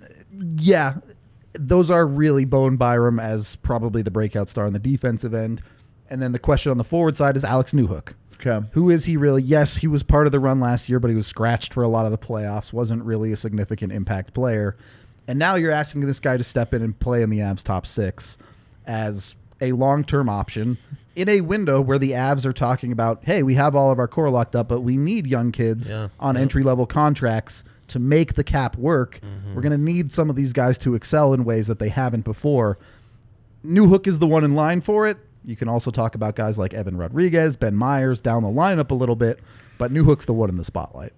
yeah, those are really Bowen Byram as probably the breakout star on the defensive end. And then the question on the forward side is Alex Newhook. Okay. Who is he really? Yes, he was part of the run last year, but he was scratched for a lot of the playoffs, wasn't really a significant impact player. And now you're asking this guy to step in and play in the Avs top six as a long-term option in a window where the Avs are talking about, hey, we have all of our core locked up, but we need young kids Yeah. on Yeah. entry-level contracts to make the cap work. Mm-hmm. We're going to need some of these guys to excel in ways that they haven't before. Newhook is the one in line for it. You can also talk about guys like Evan Rodriguez, Ben Myers down the lineup a little bit, but Newhook's the one in the spotlight.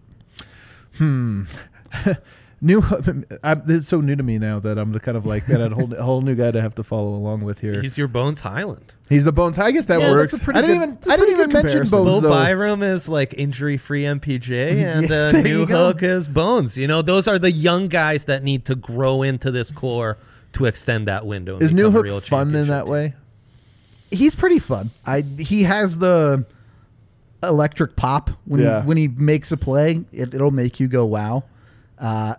Hmm. New, I'm, this is so new to me now that I'm the kind of like that a whole, a whole new guy to have to follow along with here. He's, He's your Bones Highland. the Bones. I guess that Yeah, works. that's a pretty I didn't good- even. that's a I didn't pretty even good mention comparison. Bones Bo though. Byram is like injury-free M P J, and Yeah, uh, there New you go. Hook is Bones. You know, those are the young guys that need to grow into this core to extend that window. And Is New become a Hook real fun in championship that team. way? He's pretty fun. I he has the electric pop when Yeah. he when he makes a play. It, it'll make you go wow. Uh,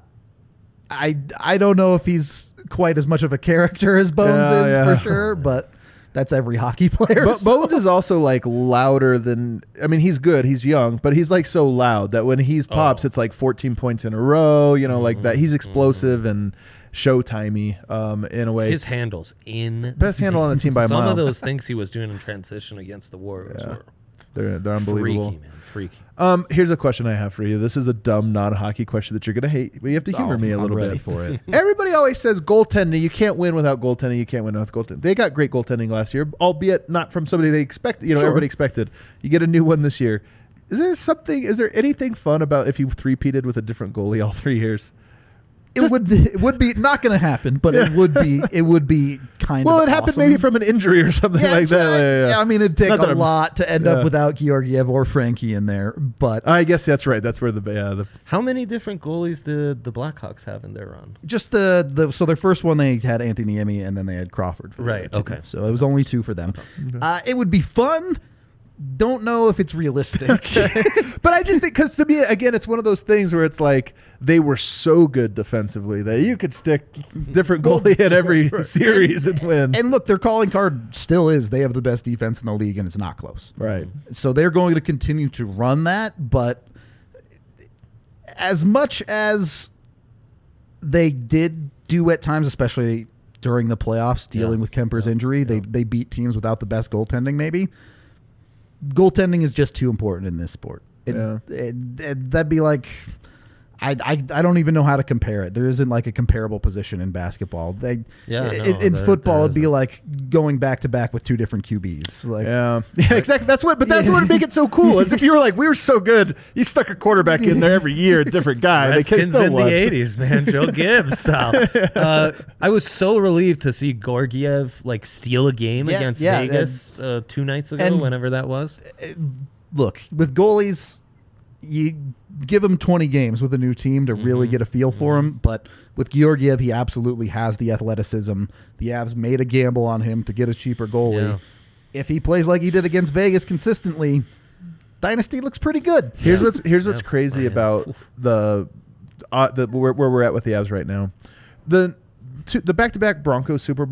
I I don't know if he's quite as much of a character as Bones Yeah, is yeah. for sure, but that's every hockey player. Bo- so- Bones is also like louder than. I mean, he's good. He's young, but he's like so loud that when he's pops, Oh. it's like fourteen points in a row. You know, like that. He's explosive and showtimey um, in a way. His handles in Best handle on the team by a some mile. of those things he was doing in transition against the Warriors Yeah. were they're they're unbelievable. freaky, man, freaky. Um, here's a question I have for you. This is a dumb non-hockey question that you're gonna hate, but you have to humor Oh, me a I'm little ready bit. for it. Everybody always says goaltending. You can't win without goaltending. You can't win without goaltending. They got great goaltending last year, albeit not from somebody they expect. You know, Sure. everybody expected. You get a new one this year. Is there something? Is there anything fun about if you three-peated with a different goalie all three years? It would it would be not going to happen, but it would be it would be kind Well, of it happened awesome. maybe from an injury or something yeah, like that. yeah, Yeah, yeah, yeah. I mean, it'd take Not that a I'm- lot to end yeah. up without Georgiev or Frankie in there, but I guess that's right. That's where the yeah the How many different goalies did the Blackhawks have in their run? just the, the so their first one they had Anthony Niemi and then they had Crawford. For the Right, other two. okay. So it was only two for them. Uh, it would be fun. Don't know if it's realistic. But I just think because to me again, it's one of those things where it's like they were so good defensively that you could stick different goalie in every series and win. And look, their calling card still is they have the best defense in the league, and it's not close. Right. So they're going to continue to run that, but as much as they did do at times, especially during the playoffs, dealing Yeah. with Kemper's Yeah. injury, they they beat teams without the best goaltending. Maybe goaltending is just too important in this sport. It, Yeah. it, it- that'd be like. I, I, I don't even know how to compare it. There isn't like a comparable position in basketball. They, Yeah, in, no, in there- football, there it'd be isn't. like going back to back with two different Q Bs. Like, Yeah, yeah, exactly. That's what, but that's Yeah. what would make it so cool. Is if you were like, we were so good, you stuck a quarterback in there every year, a different guy. They Redskins still in won. the eighties, man. Joe Gibbs style. Uh, I was so relieved to see Georgiev like steal a game Yeah, against yeah, Vegas uh, two nights ago, and- whenever that was. look, with goalies, you give them twenty games with a new team to really Mhm. get a feel for him. But with Georgiev, he absolutely has the athleticism. The Avs made a gamble on him to get a cheaper goalie. Yeah. If he plays like he did against Vegas consistently, Dynasty looks pretty good. Here's what's here's what's Yeah. crazy Yeah. about the, uh, the where, where we're at with the Avs right now. The two, the back to back Broncos Super Bowls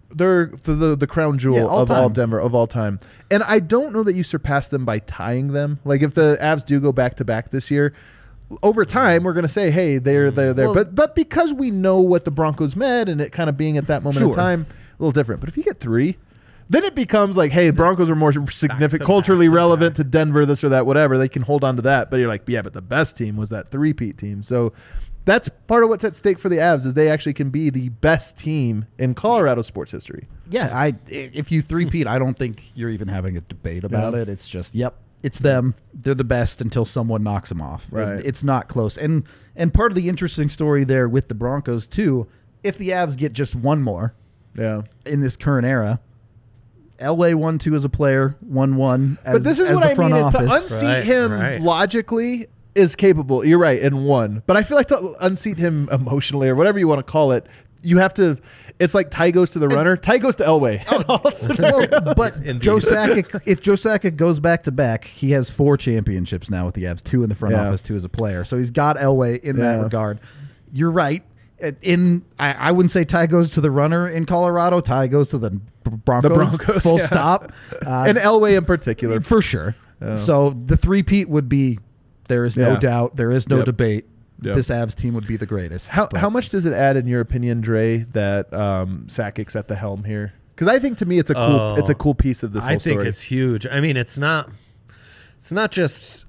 they're the the, the crown jewel Yeah, all of all time. Denver of all time. And I don't know that you surpass them by tying them. Like if the Avs do go back to back this year, over time we're going to say, hey, they're they're there. Well- but but because we know what the Broncos meant and it kind of being at that moment in Sure. time, a little different. But if you get three, then it becomes like, hey, the Broncos are more significant, to culturally back to relevant back. to Denver, this or that, whatever. They can hold on to that. But you're like, yeah, but the best team was that three-peat team. So that's part of what's at stake for the Avs is they actually can be the best team in Colorado sports history. Yeah, I if you three-peat, I don't think you're even having a debate about Yeah. it. It's just, yep, it's them. They're the best until someone knocks them off. Right. And it's not close. And and part of the interesting story there with the Broncos too, if the Avs get just one more Yeah. in this current era, Elway won two as a player, one one. As, But this is as what the I front mean is to office. unseat Right, him right. logically is capable. You're right, in one. But I feel like to unseat him emotionally or whatever you want to call it, you have to. It's like Ty goes to the runner, Ty goes to Elway. Well, but Indeed. Joe Sakic, if Joe Sakic goes back to back, he has four championships now with the Avs, two in the front Yeah. office, two as a player. So he's got Elway in that Yeah. regard. You're right. In I, I wouldn't say Ty goes to the runner in Colorado. Ty goes to the B- Broncos. The Broncos, full yeah. stop. Uh, and Elway in particular. for sure. Yeah. So the three-peat would be. There is no Yeah. doubt. There is no Yep. debate. Yep. This Avs team would be the greatest. How But- how much does it add in your opinion, Dre, that um, Sakic's at the helm here? Because I think to me it's a cool Oh. it's a cool piece of this whole I think story. it's huge. I mean, it's not. It's not just.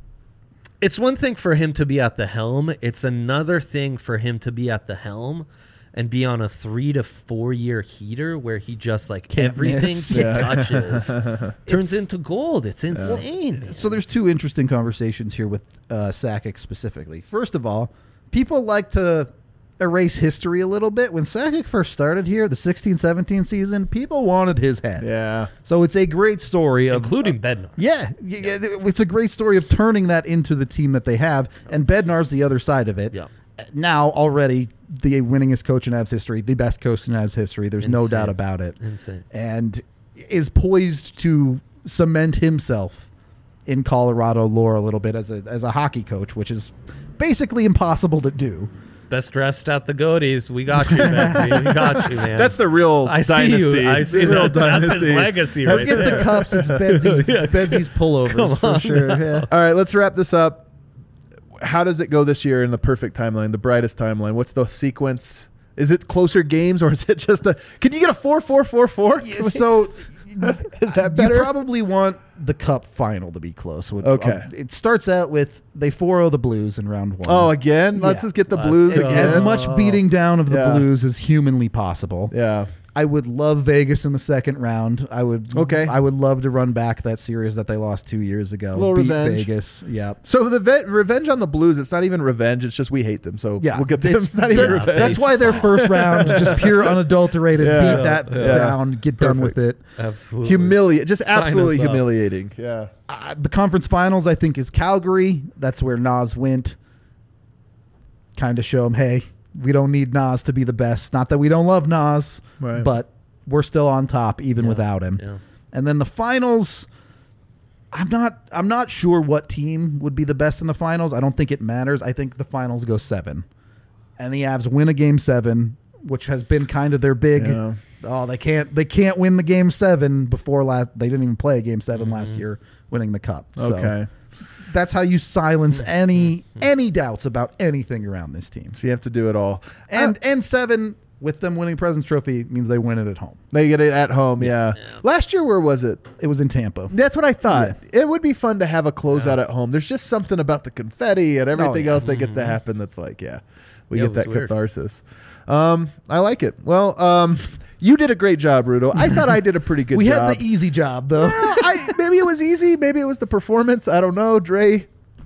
It's one thing for him to be at the helm. It's another thing for him to be at the helm and be on a three to four year heater where he just like Can't everything miss. he Yeah. touches turns It's- into gold. It's insane. So there's two interesting conversations here with uh, Sakic specifically. First of all, people like to erase history a little bit. When Sakic first started here, the sixteen seventeen season, people wanted his head. yeah. So it's a great story of Including Bednar. yeah, y- y- it's a great story of turning that into the team that they have, and Bednar's the other side of it. Yeah. Now already the winningest coach in Avs history, the best coach in Avs history. There's no Insane. doubt about it. Insane. And is poised to cement himself in Colorado lore a little bit as a as a hockey coach, which is basically impossible to do. Best dressed at the Goaties. We got you, Betsy. We got you, man. That's the real I see dynasty. you. I see The real that. That's his dynasty. legacy Let's right get there. the cups. It's Bedsy's, Bedsy's pullovers for sure. Yeah. All right, let's wrap this up. How does it go this year in the perfect timeline, the brightest timeline? What's the sequence? Is it closer games or is it just a? Can you get a four four four four? So Is that you better? probably want the cup final to be close. Would- Okay. um, it starts out with they four oh the Blues in round one. Oh, again? Let's Yeah. just get the Let's Blues go. again. As much beating down of the Yeah. Blues as humanly possible. Yeah. I would love Vegas in the second round. I would. Okay. I would love to run back that series that they lost two years ago. Little Beat revenge. Vegas. Yep. So the ve- revenge on the Blues, it's not even revenge. It's just we hate them. So Yeah, we'll get them. It's, It's not even that- revenge. That's why their first round, just pure unadulterated, Yeah. beat that Yeah. down, get done with it. Absolutely. Humiliate, just Sign absolutely us up. humiliating. Yeah. Uh, the conference finals, I think, is Calgary. That's where Nas went. Kind of show them, hey, we don't need Nas to be the best. Not that we don't love Nas, Right. but we're still on top even Yeah. without him. Yeah. And then the finals, I'm not I'm not sure what team would be the best in the finals. I don't think it matters. I think the finals go seven. And the Avs win a game seven, which has been kind of their big Yeah. oh, they can't they can't win the game seven before last they didn't even play a game 7 last year winning the cup. So Okay. that's how you silence any any doubts about anything around this team. So you have to do it all. And Uh, and seven with them winning President's Trophy means they win it at home. they get it at home. Yeah. Last year, where was it? It was in Tampa. That's what I thought. It would be fun to have a closeout at home. There's just something about the confetti and everything yeah. else that gets to happen that's like, yeah, we Yeah, get it that was weird. catharsis. Um, I like it. Well, um, you did a great job, Rudo. I thought I did a pretty good we job. had the easy job though. Well, I, maybe it was easy. Maybe it was the performance. I don't know, Dre.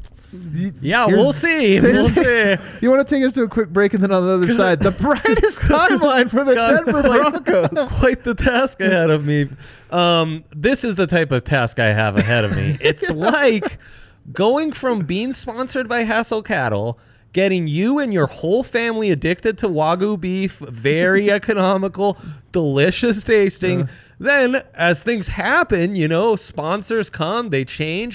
Yeah, Here's- we'll see. We'll see. You want to take us to a quick break, and then on the other side, the brightest timeline for the God, Denver quite- Broncos. Quite the task ahead of me. Um, this is the type of task I have ahead of me. It's like going from being sponsored by Hassel Cattle, getting you and your whole family addicted to Wagyu beef, very economical, delicious tasting. Then, as things happen, you know, sponsors come, they change.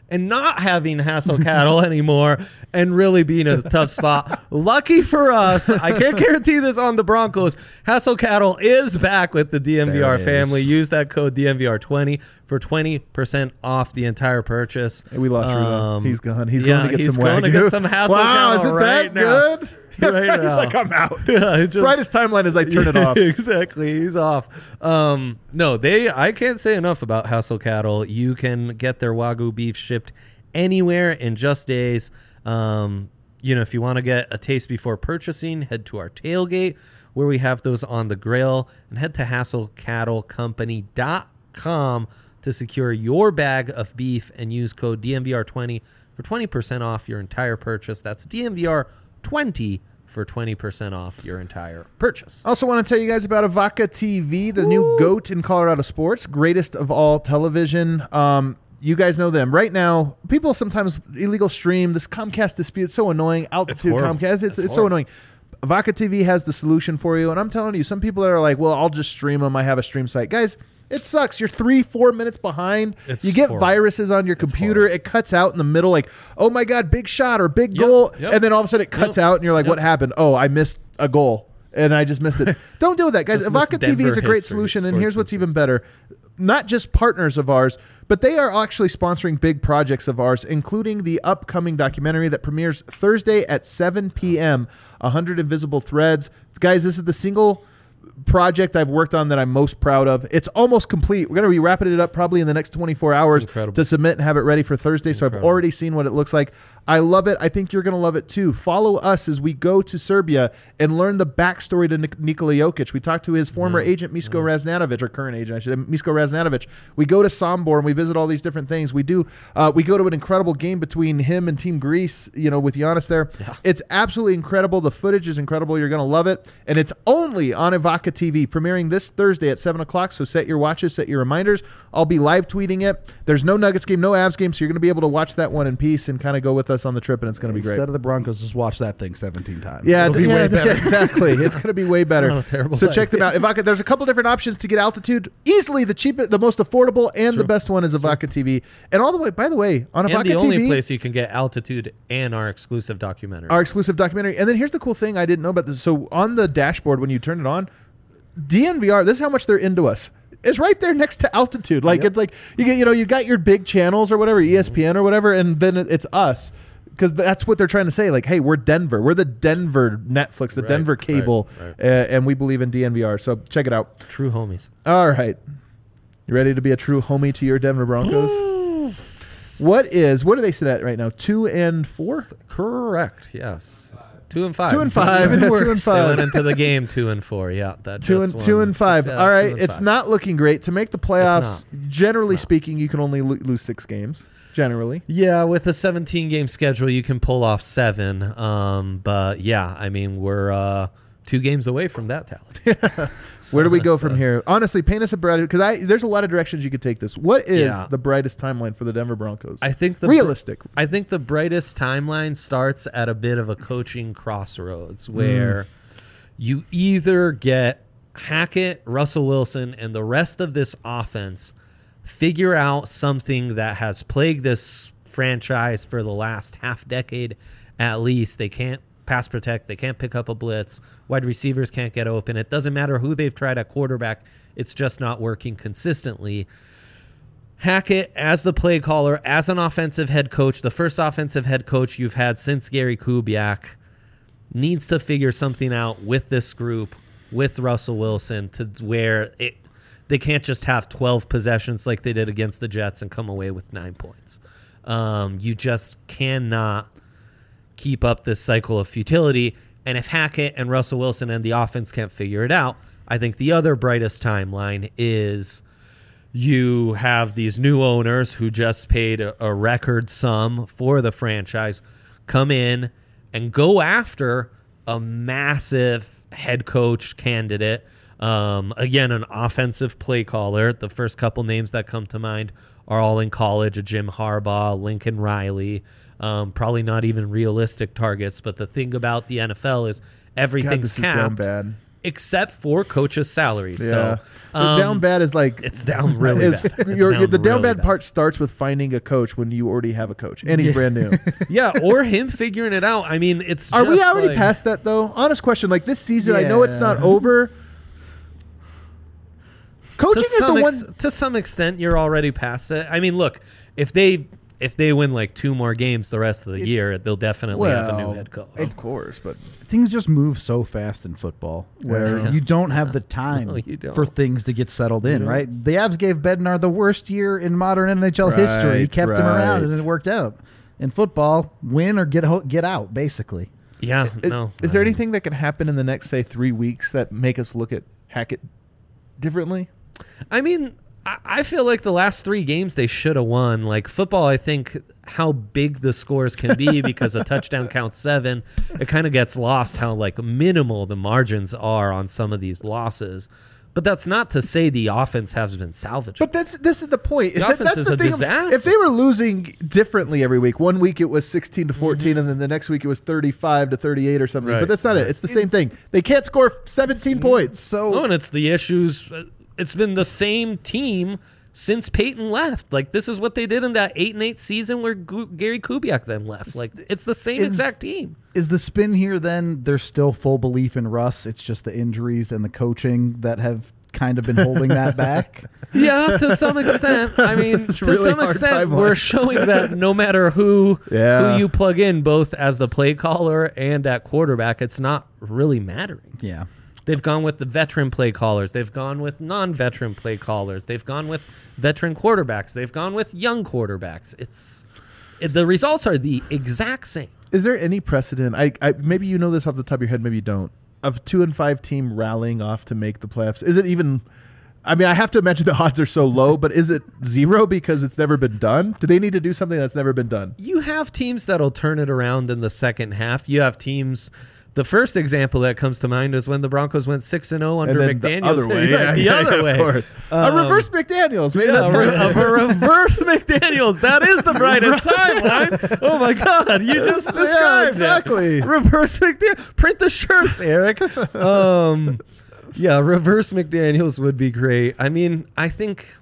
and not having Hassel Cattle anymore and really being in a tough spot. Lucky for us, I can't guarantee this on the Broncos. Hassel Cattle is back with the D N V R There it family. is. Use that code D N V R twenty for twenty percent off the entire purchase. Hey, we lost Rudo. Um, He's gone. He's yeah, going to get he's some going to Wagyu. get some Hassel Wow, Cattle is it right that now. good? Right He's now. like, I'm out. Yeah, it's just- Brightest timeline is I turn it off. Exactly, he's off. Um, no, they. I can't say enough about Hassel Cattle. You can get their Wagyu beef shipped anywhere in just days. Um, you know, if you want to get a taste before purchasing, head to our tailgate where we have those on the grill, and head to hassel cattle company dot com to secure your bag of beef and use code D N V R twenty for twenty percent off your entire purchase. That's D N V R twenty for twenty percent off your entire purchase. Also want to tell you guys about Avaca T V, the new GOAT in Colorado sports, greatest of all television. Um, you guys know them. Right now, people sometimes illegal stream. This Comcast dispute is so annoying. Altitude horrible. Comcast, it's, It's it's, so horrible. annoying. Avaca T V has the solution for you. And I'm telling you, some people that are like, well, I'll just stream them. I have a stream site. Guys, it sucks. You're three, four minutes behind. It's you get horrible. viruses on your computer. horrible. It cuts out in the middle like, oh my God, big shot or big Yep, goal. yep. And then all of a sudden it cuts Yep, out and you're like, yep. what happened? Oh, I missed a goal. And I just missed it. Don't do that, guys. Just missed Avaca T V is a Denver great history, solution, and sports here's what's history. even better. Not just partners of ours, but they are actually sponsoring big projects of ours, including the upcoming documentary that premieres Thursday at seven p.m., one hundred Invisible Threads. Guys, this is the single project I've worked on that I'm most proud of. It's almost complete. We're going to be wrapping it up probably in the next twenty-four hours incredible. to submit and have it ready for Thursday. So I've Incredible. already seen what it looks like. I love it. I think you're going to love it too. Follow us as we go to Serbia and learn the backstory to Nik- Nikola Jokic. We talked to his former agent, Misko Raznatovic, or current agent, I should say, Misko Raznatovic. We go to Sombor and we visit all these different things. We do. Uh, we go to an incredible game between him and Team Greece, you know, with Giannis there. It's absolutely incredible. The footage is incredible. You're going to love it. And it's only on Avaca T V, premiering this Thursday at seven o'clock. So set your watches, set your reminders. I'll be live tweeting it. There's no Nuggets game, no Avs game, so you're going to be able to watch that one in peace and kind of go with us on the trip, and it's going to be great. Instead of the Broncos, just watch that thing seventeen times. Yeah, It'll be yeah, way better. yeah, exactly. It's going to be way better. Not a terrible so check them out. idea. Avaca, there's a couple different options to get altitude. Easily the cheapest, the most affordable, and the True. best one is Avaca T V. And all the way, by the way, on And Avaca the only T V, place you can get altitude and our exclusive documentary. our exclusive documentary. And then here's the cool thing I didn't know about this. So on the dashboard, when you turn it on, D N V R, this is how much they're into us. It's right there next to altitude. Like Yep. it's like you get, you know, you got your big channels or whatever, E S P N or whatever, and then it's us. Because that's what they're trying to say. Like, hey, we're Denver. We're the Denver Netflix, the Right, Denver right, cable, right. Uh, and we believe in D N V R. So check it out. True homies. All right. You ready to be a true homie to your Denver Broncos? What is, what do they sit at right now? Two and four? Correct. Yes. Two and five. Two and five. Even Two worse. and They five. went into the game two and four. Yeah, that Two Jets and two one. and five. It's, uh, All two right, and it's five. not looking great to make the playoffs. Generally It's not. speaking, you can only lo- lose six games. Generally, Yeah, with a seventeen game schedule, you can pull off seven. Um, but yeah, I mean, we're uh, two games away from that talent. where do we go that's, from uh, here? Honestly, paint us a bright, because I there's a lot of directions you could take this. What is Yeah. the brightest timeline for the Denver Broncos? I think the Realistic. I think the brightest timeline starts at a bit of a coaching crossroads where you either get Hackett, Russell Wilson, and the rest of this offense figure out something that has plagued this franchise for the last half decade at least. They can't pass protect. They can't pick up a blitz. Wide receivers can't get open. It doesn't matter who they've tried at quarterback. It's just not working consistently. Hackett, as the play caller, as an offensive head coach, the first offensive head coach you've had since Gary Kubiak, needs to figure something out with this group, with Russell Wilson, to where it they can't just have twelve possessions like they did against the Jets and come away with nine points. Um, you just cannot keep up this cycle of futility. And if Hackett and Russell Wilson and the offense can't figure it out, I think the other brightest timeline is you have these new owners who just paid a, a record sum for the franchise come in and go after a massive head coach candidate. Um, again, an offensive play caller. The first couple names that come to mind are all in college, a Jim Harbaugh, Lincoln Riley. Um, probably not even realistic targets, but the thing about the N F L is God, everything's this is damn capped. bad. except for coaches' salaries. Yeah. So the um, down bad is like it's down really is, bad. It's your- down the down really bad, bad. part starts with finding a coach when you already have a coach and he's brand new. Yeah, or him figuring it out. I mean, it's Are we just already like- past that though? Honest question. Like this season, I know it's Yeah. not over. Coaching to is some the ex- one. to some extent you're already past it. I mean, look, if they if they win like two more games the rest of the year, they'll definitely have a new well, head coach. Of course, but Things just move so fast in football where Yeah. you don't have the time No, you don't. for things to get settled in, don't. right? The Avs gave Bednar the worst year in modern N H L Right, history. He kept him around and right. it worked out. In football, win or get ho- get out, basically. yeah, is, no. is there um, anything that can happen in the next say three weeks that make us look at Hackett differently? I mean, I, I feel like the last three games they should have won. Like football, I think how big the scores can be because a touchdown counts seven. It kind of gets lost how like minimal the margins are on some of these losses. But that's not to say the offense has been salvaged. But that's this is the point. The That- offense that's is the a thing. disaster. If they were losing differently every week, one week it was sixteen to fourteen, Mm-hmm. and then the next week it was thirty-five to thirty-eight or something. Right, But that's not it. It's the same thing. They can't score seventeen points. So Oh, and it's the issues. It's been the same team since Peyton left. Like this is what they did in that eight and eight season where Gu- Gary Kubiak then left. Like it's the same Is- exact team. is the spin here then there's still full belief in Russ? It's just the injuries and the coaching that have kind of been holding that back. Yeah, to some extent. I mean, It's to really some hard extent, timeline. we're showing that no matter who Yeah. who you plug in, both as the play caller and at quarterback, it's not really mattering. Yeah. They've gone with the veteran play callers. They've gone with non-veteran play callers. They've gone with veteran quarterbacks. They've gone with young quarterbacks. It's it, the results are the exact same. Is there any precedent? I, I maybe you know this off the top of your head, maybe you don't. Of two and five team rallying off to make the playoffs. Is it even? I mean, I have to imagine the odds are so low, but is it zero because it's never been done? Do they need to do something that's never been done? You have teams that'll turn it around in the second half. You have teams. The first example that comes to mind is when the Broncos went six and zero under And then McDaniels. the other way, Yeah, yeah, the yeah, other yeah, way. of course. Um, a reverse McDaniels, maybe Yeah, that's a, re- of a reverse McDaniels. That is the brightest timeline. Oh my God, you just Yeah, described exactly. it. Reverse McDaniels. Print the shirts, Eric. Um, yeah, reverse McDaniels would be great. I mean, I think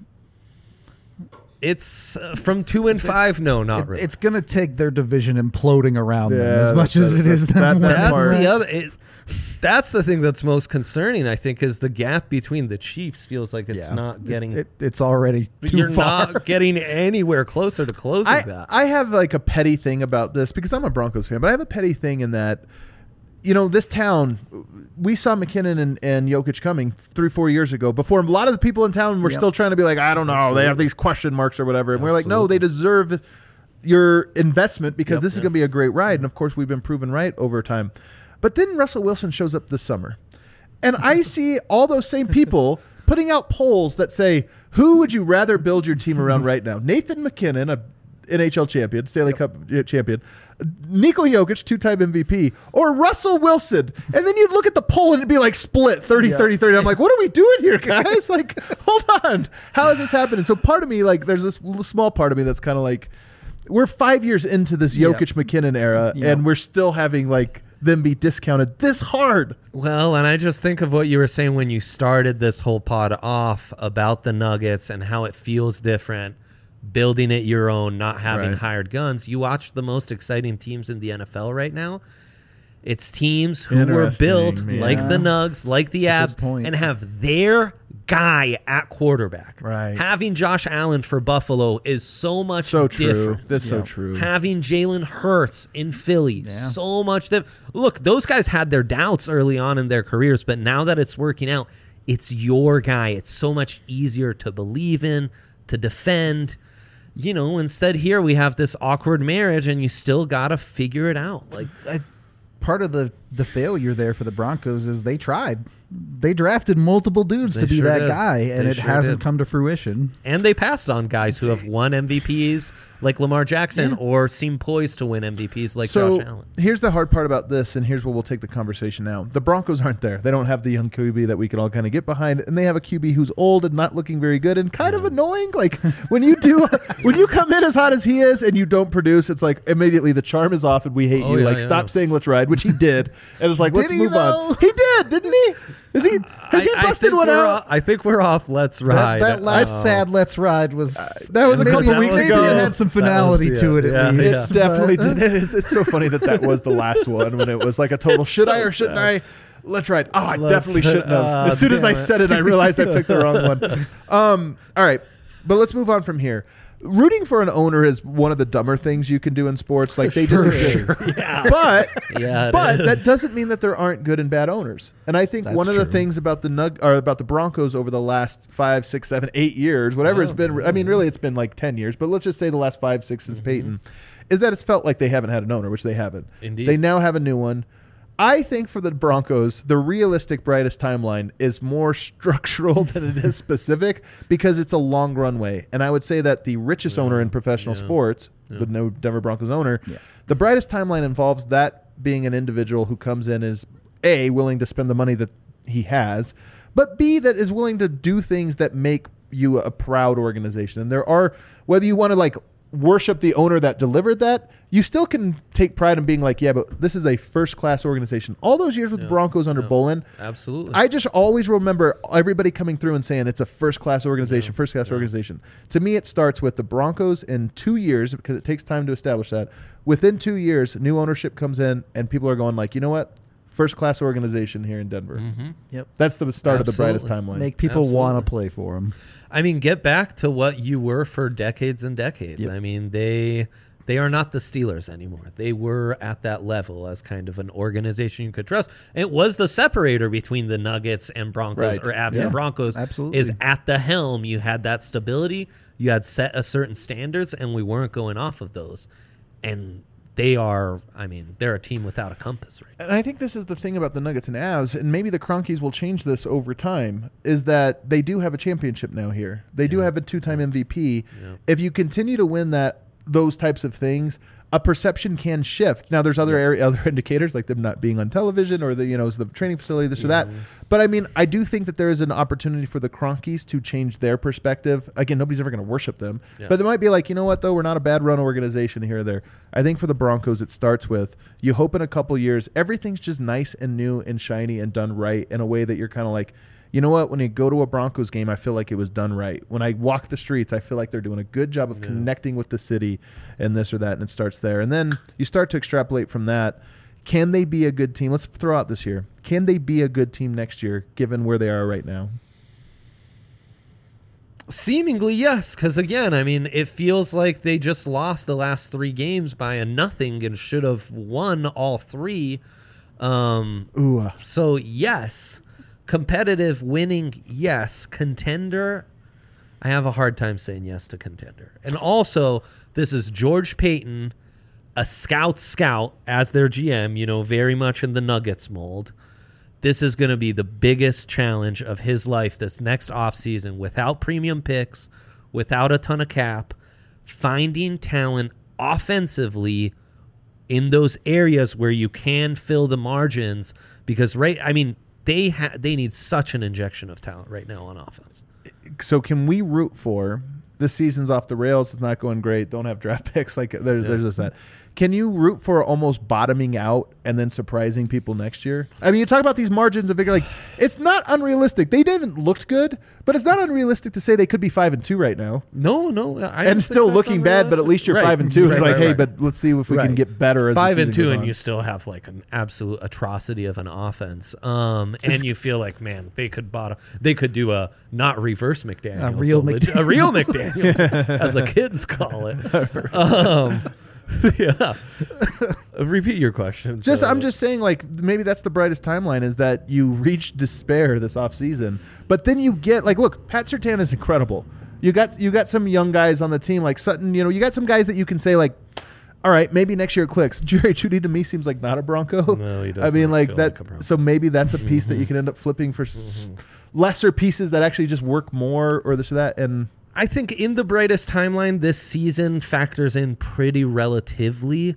it's uh, from two and five. No, not It- really. It's going to take their division imploding around them Yeah, as much that's- as it is that's- them that- that winning. That's part. the other. It, that's the thing that's most concerning. I think is the gap between the Chiefs feels like it's Yeah. not getting. It, it's already too you're far. not getting anywhere closer to closing I, that. I have like a petty thing about this because I'm a Broncos fan, but I have a petty thing in that, you know, this town, we saw McKinnon and, and Jokic coming three, four years ago before a lot of the people in town were Yep. still trying to be like, I don't know, Absolutely. they have these question marks or whatever. And we're like, no, Absolutely. they deserve your investment because Yep. this is going to be a great ride. And of course, we've been proven right over time. But then Russell Wilson shows up this summer. And I see all those same people putting out polls that say, who would you rather build your team around right now? Nathan McKinnon, a N H L champion, Stanley Cup uh, champion, Nikola Jokic, two-time M V P, or Russell Wilson. And then you'd look at the poll and it'd be like split thirty, Yeah. thirty, thirty. I'm like, what are we doing here, guys? Like, hold on. How is this happening? So part of me, like, there's this little small part of me that's kind of like, we're five years into this Yeah. Jokic McKinnon era, Yeah. and we're still having like them be discounted this hard. Well, and I just think of what you were saying when you started this whole pod off about the Nuggets and how it feels different, building it your own, not having Right. hired guns. You watch the most exciting teams in the N F L right now. It's teams who were Interesting, built man. like the Yeah. Nugs, like the That's a Abs, good point. and have their guy at quarterback. Right. Having Josh Allen for Buffalo is so much So true. different. That's so Yeah. true. Having Jalen Hurts in Philly, Yeah. so much that look, those guys had their doubts early on in their careers, but now that it's working out, it's your guy. It's so much easier to believe in, to defend. You know, instead here we have this awkward marriage and you still got to figure it out. Like I, part of the, the failure there for the Broncos is they tried. They drafted multiple dudes They to be sure that did. guy, and They it sure hasn't did. come to fruition. and they passed on guys who have won M V Ps like Lamar Jackson Yeah. or seem poised to win M V Ps like so Josh Allen. here's the hard part about this, and here's where we'll take the conversation now. The Broncos aren't there. They don't have the young Q B that we can all kind of get behind, and they have a Q B who's old and not looking very good and kind of annoying. Like when you do, when you come in as hot as he is and you don't produce, it's like immediately the charm is off and we hate Oh, you. yeah, like yeah. stop saying let's ride, which he did. and was like, Did let's he, move though? on. He did, didn't he? Is he? Has he I- I busted think one we're out? o- I think we're off. Let's That, ride. that last Oh. sad "Let's Ride" was that was a maybe, couple weeks maybe ago. it had some That was finality the to end. it at Yeah, least. yeah. It definitely but- did. It is, it's so funny that that was the last one when it was like a total It's should so I or shouldn't sad. I? Let's ride. Oh, I Let's definitely ride. shouldn't have. Ah, As soon as I damn it. said it, I realized I picked the wrong one. Um, all right, but let's move on from here. Rooting for an owner is one of the dumber things you can do in sports. Like they just exist. Yeah. But Yeah, it but is. that doesn't mean that there aren't good and bad owners. And I think That's one of the true. things about the Nug or about the Broncos over the last five, six, seven, eight years, whatever it's Wow. been. I mean, really, it's been like ten years, but let's just say the last five, six since Mm-hmm. Peyton, is that it's felt like they haven't had an owner, which they haven't. Indeed. They now have a new one. I think for the Broncos, the realistic brightest timeline is more structural than it is specific because it's a long runway. And I would say that the richest owner in professional yeah. sports, Yeah. the no Denver Broncos owner, Yeah. the brightest timeline involves that being an individual who comes in is A, willing to spend the money that he has, but B, that is willing to do things that make you a proud organization. And there are, whether you want to like worship the owner that delivered that, you still can take pride in being like, yeah, but this is a first class organization. All those years with the Yeah. Broncos under Yeah. Bolin, Absolutely. I just always remember everybody coming through and saying it's a first class organization, first class Yeah. organization. To me, it starts with the Broncos in two years because it takes time to establish that. Within two years, new ownership comes in and people are going like, you know what? First class organization here in Denver. Mhm. Yep. That's the start of the brightest Absolutely. timeline. Make people Absolutely. want to play for him. I mean, get back to what you were for decades and decades. Yep. I mean, they they are not the Steelers anymore. They were at that level as kind of an organization you could trust. It was the separator between the Nuggets and Broncos, Right. or Abs Yeah, and Broncos. absolutely. Is at the helm. You had that stability. You had set a certain standards, and we weren't going off of those. And they are, I mean, they're a team without a compass right now. And I think this is the thing about the Nuggets and Avs, and maybe the Cronkies will change this over time, is that they do have a championship now here. They do Yeah. have a two-time M V P. Yeah. If you continue to win that, those types of things, a perception can shift. Now, there's other area, other indicators like them not being on television or the you know the training facility, this or that. But I mean, I do think that there is an opportunity for the Cronkies to change their perspective. Again, nobody's ever going to worship them, Yeah. but they might be like, you know what, though, we're not a bad run organization here or there. I think for the Broncos, it starts with you hope in a couple years everything's just nice and new and shiny and done right in a way that you're kind of like, you know what, when you go to a Broncos game, I feel like it was done right. When I walk the streets, I feel like they're doing a good job of Yeah. connecting with the city and this or that, and it starts there. And then you start to extrapolate from that. Can they be a good team? Let's throw out this year. Can they be a good team next year, given where they are right now? Seemingly, yes. Because again, I mean, it feels like they just lost the last three games by a nothing and should have won all three. Um, Ooh, uh, so yes, competitive, winning, yes. Contender, I have a hard time saying yes to contender. And also, this is George Payton, a scout scout as their G M. You know, very much in the Nuggets mold. This is going to be the biggest challenge of his life this next offseason without premium picks, without a ton of cap, finding talent offensively in those areas where you can fill the margins because right I mean they ha- they need such an injection of talent right now on offense. so can we root for this season's off the rails? It's not going great. Don't have draft picks. Like there's Yeah. there's this that. Can you root for almost bottoming out and then surprising people next year? I mean, you talk about these margins of figure like it's not unrealistic. They didn't look good, but it's not unrealistic to say they could be five and two right now No, no, I don't and think still that's looking bad. But at unrealistic. least you're Right, five and two. right, It's like, right, hey, right. but let's see if we can Right. get better. As the Five and season two, goes and on. you still have like an absolute atrocity of an offense. Um, and you feel like, man, they could bottom. They could do a not reverse McDaniel, A real leg- a real McDaniel's, as the kids call it. Um, yeah. Repeat your question. Just, Joe. I'm just saying, like, maybe that's the brightest timeline is that you reach despair this offseason. But then you get, like, look, Pat Surtain is incredible. You got you got some young guys on the team, like Sutton, you know, you got some guys that you can say, like, all right, maybe next year it clicks. Jerry Jeudy to me seems like not a Bronco. No, he I does mean, not like feel that. like a Bronco. So maybe that's a piece that you can end up flipping for s- lesser pieces that actually just work more or this or that. And I think in the brightest timeline, this season factors in pretty relatively.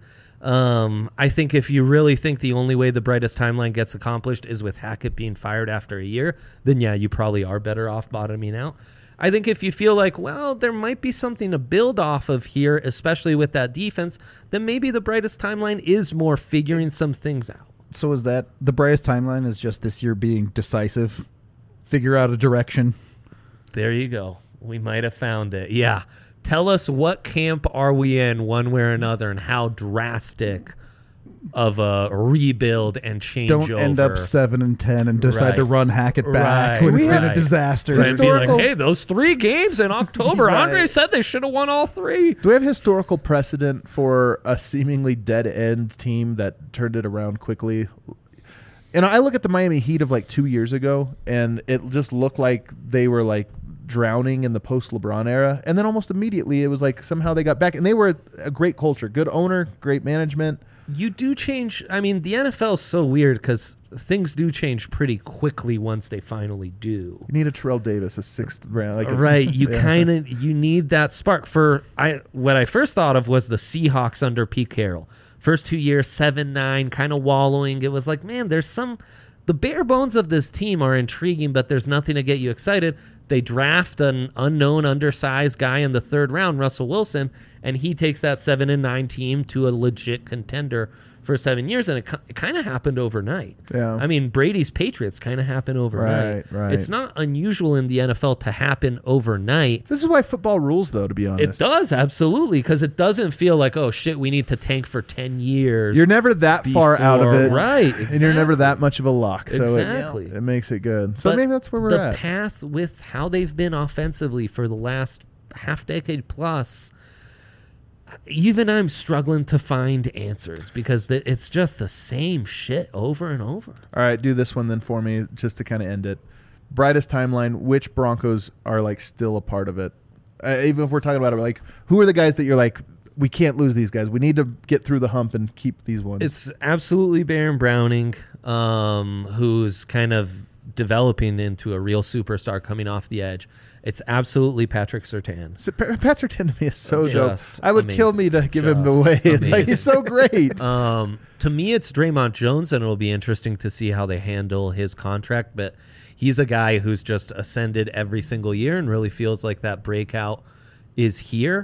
Um, I think if you really think the only way the brightest timeline gets accomplished is with Hackett being fired after a year, then yeah, you probably are better off bottoming out. I think if you feel like, well, there might be something to build off of here, especially with that defense, then maybe the brightest timeline is more figuring some things out. So is that the brightest timeline? Is just this year being decisive, figure out a direction. There you go. We might have found it. Yeah. Tell us what camp are we in, one way or another, and how drastic of a rebuild and change Don't over. end up seven and ten and decide Right. to run Hackett back Right. when it's Right. been a disaster. Right, be like, Historical- hey, those three games in October, Right. Andre said they should have won all three. Do we have historical precedent for a seemingly dead end team that turned it around quickly? And I look at the Miami Heat of like two years ago, and it just looked like they were like drowning in the post LeBron era. And then almost immediately it was like somehow they got back, and they were a great culture, good owner, great management. You do change. I mean, the N F L is so weird because things do change pretty quickly once they finally do. You need a Terrell Davis, a sixth round. Like a- Right, you Yeah. kind of you need that spark. For I, what I first thought of was the Seahawks under Pete Carroll. First two years, seven nine, kind of wallowing. It was like, man, there's some. The bare bones of this team are intriguing, but there's nothing to get you excited. They draft an unknown, undersized guy in the third round, Russell Wilson, and he takes that seven and nine team to a legit contender for seven years, and it, ki- it kind of happened overnight. Yeah. I mean, Brady's Patriots kind of happened overnight. Right, right. It's not unusual in the N F L to happen overnight. This is why football rules, though, to be It honest. does, absolutely, because it doesn't feel like, oh, shit, we need to tank for ten years. You're never that far out of before- it. Right, And you're never exactly. that much of a lock. So it- Exactly. it, makes it good. So But maybe that's where we're the at. path with how they've been offensively for the last half decade plus. Even I'm struggling to find answers because th- it's just the same shit over and over. All right, do this one then for me, just to kind of end it. Brightest timeline. Which Broncos are like still a part of it? Uh, even if we're talking about it, like who are the guys that you're like, we can't lose these guys. We need to get through the hump and keep these ones. It's absolutely Baron Browning, um, who's kind of developing into a real superstar coming off the edge. It's absolutely Patrick Surtain. So, Pa- Pat Surtain to me is so dope. Just I would kill me to give him away. It's like he's so great. Um, to me, it's Draymond Jones, and it'll be interesting to see how they handle his contract. But he's a guy who's just ascended every single year and really feels like that breakout is here.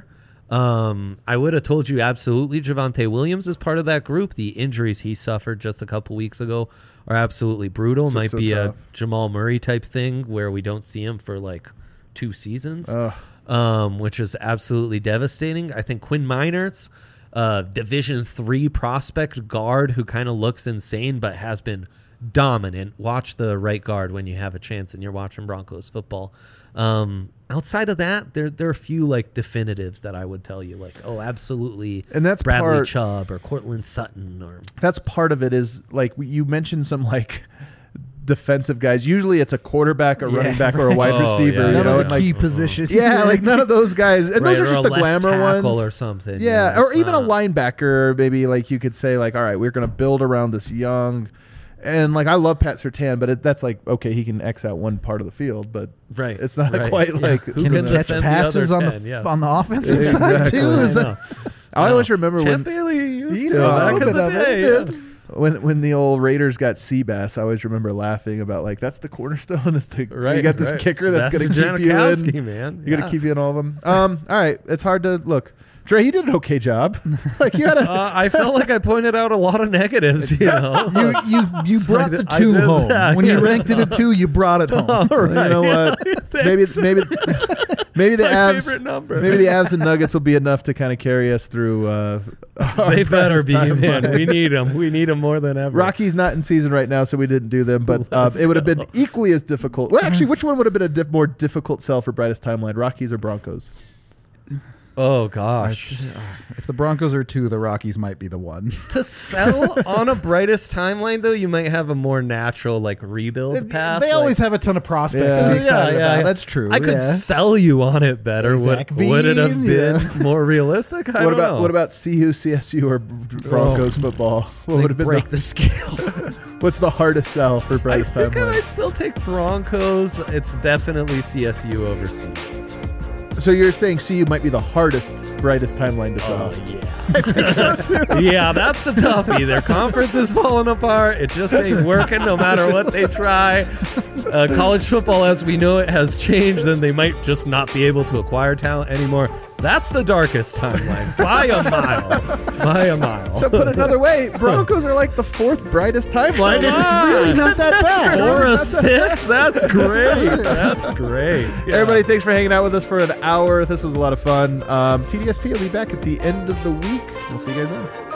Um, I would have told you absolutely Javonte Williams is part of that group. The injuries he suffered just a couple weeks ago are absolutely brutal. So- Might so be tough. a Jamal Murray type thing where we don't see him for like two seasons, Ugh. um, which is absolutely devastating. I think Quinn Miners, uh, Division three prospect guard who kind of looks insane but has been dominant. Watch the right guard when you have a chance and you're watching Broncos football. Um, outside of that, there there are a few like definitives that I would tell you, like, oh, absolutely, And that's Bradley part- Chubb or Cortland Sutton or That's part of it. Is like you mentioned some like defensive guys. Usually it's a quarterback, a Yeah, running back, or a wide Oh, receiver. yeah, you None know, of and the like key positions. yeah, like none of those guys. And right, those are or just a the left glamour tackle ones. or something. Yeah, or it's even a not- linebacker. Maybe like you could say like, all right, we're going to build around this young. And like I love Pat Surtain, but it, that's like okay, he can X out one part of the field, but Right, it's not right. quite Yeah. like Who Can can he catch defend the passes other on ten? the Yes. on the offensive Exactly. side too? Is I that, know. I always remember Champ when Bailey used You to know, a back little in the bit of day. it. yeah. when when the old Raiders got Seabass. I always remember laughing about like that's the cornerstone. Is the Right, you got this right. kicker that's going to Sebastian keep you Janikowski, in. man. You got to Yeah. keep you in all of them. Um, all right, it's hard to look. Dre, you did an okay job. Like you had a Uh, I felt like I pointed out a lot of negatives, you know. you you you So brought I the did- I two did home that, when you yeah. ranked it at two. You brought it home. All right. you know what? maybe maybe maybe the My Avs favorite number. maybe the Avs and Nuggets will be enough to kind of carry us through. Uh, our They better brightest be, timeline. man. We need them. We need them more than ever. Rocky's not in season right now, so we didn't do them. But uh, Let's it would have been go. equally as difficult. Well, actually, which one would have been a diff- more difficult sell for brightest timeline, Rockies or Broncos? Oh gosh. If the Broncos are two, the Rockies might be the one. To sell on a brightest timeline, though, you might have a more natural like rebuild path. They like- always have a ton of prospects Yeah. to be Yeah, excited yeah, about. yeah. That's true. I could yeah. sell you on it better. Would, Zach would it have Veen, been yeah. more realistic? I what don't about know. what about C U, C S U, or Broncos football? What They would have been break the, the scale. what's the hardest sell for I brightest think I timeline? might still take Broncos. It's definitely C S U over C U. So you're saying C U might be the hardest brightest timeline to Oh, sell? yeah. Yeah, that's a toughie. Their conference is falling apart. It just ain't working no matter what they try. Uh, college football, as we know it, has changed, and they might just not be able to acquire talent anymore. That's the darkest timeline by a mile. By a mile. So put another way, Broncos are like the fourth brightest timeline. Come It's on. really not that bad. Or Really a not that six? That's great. That's great. Yeah. Everybody, thanks for hanging out with us for an hour. This was a lot of fun. Um, T D S P will be back at the end of the week. We'll see you guys then.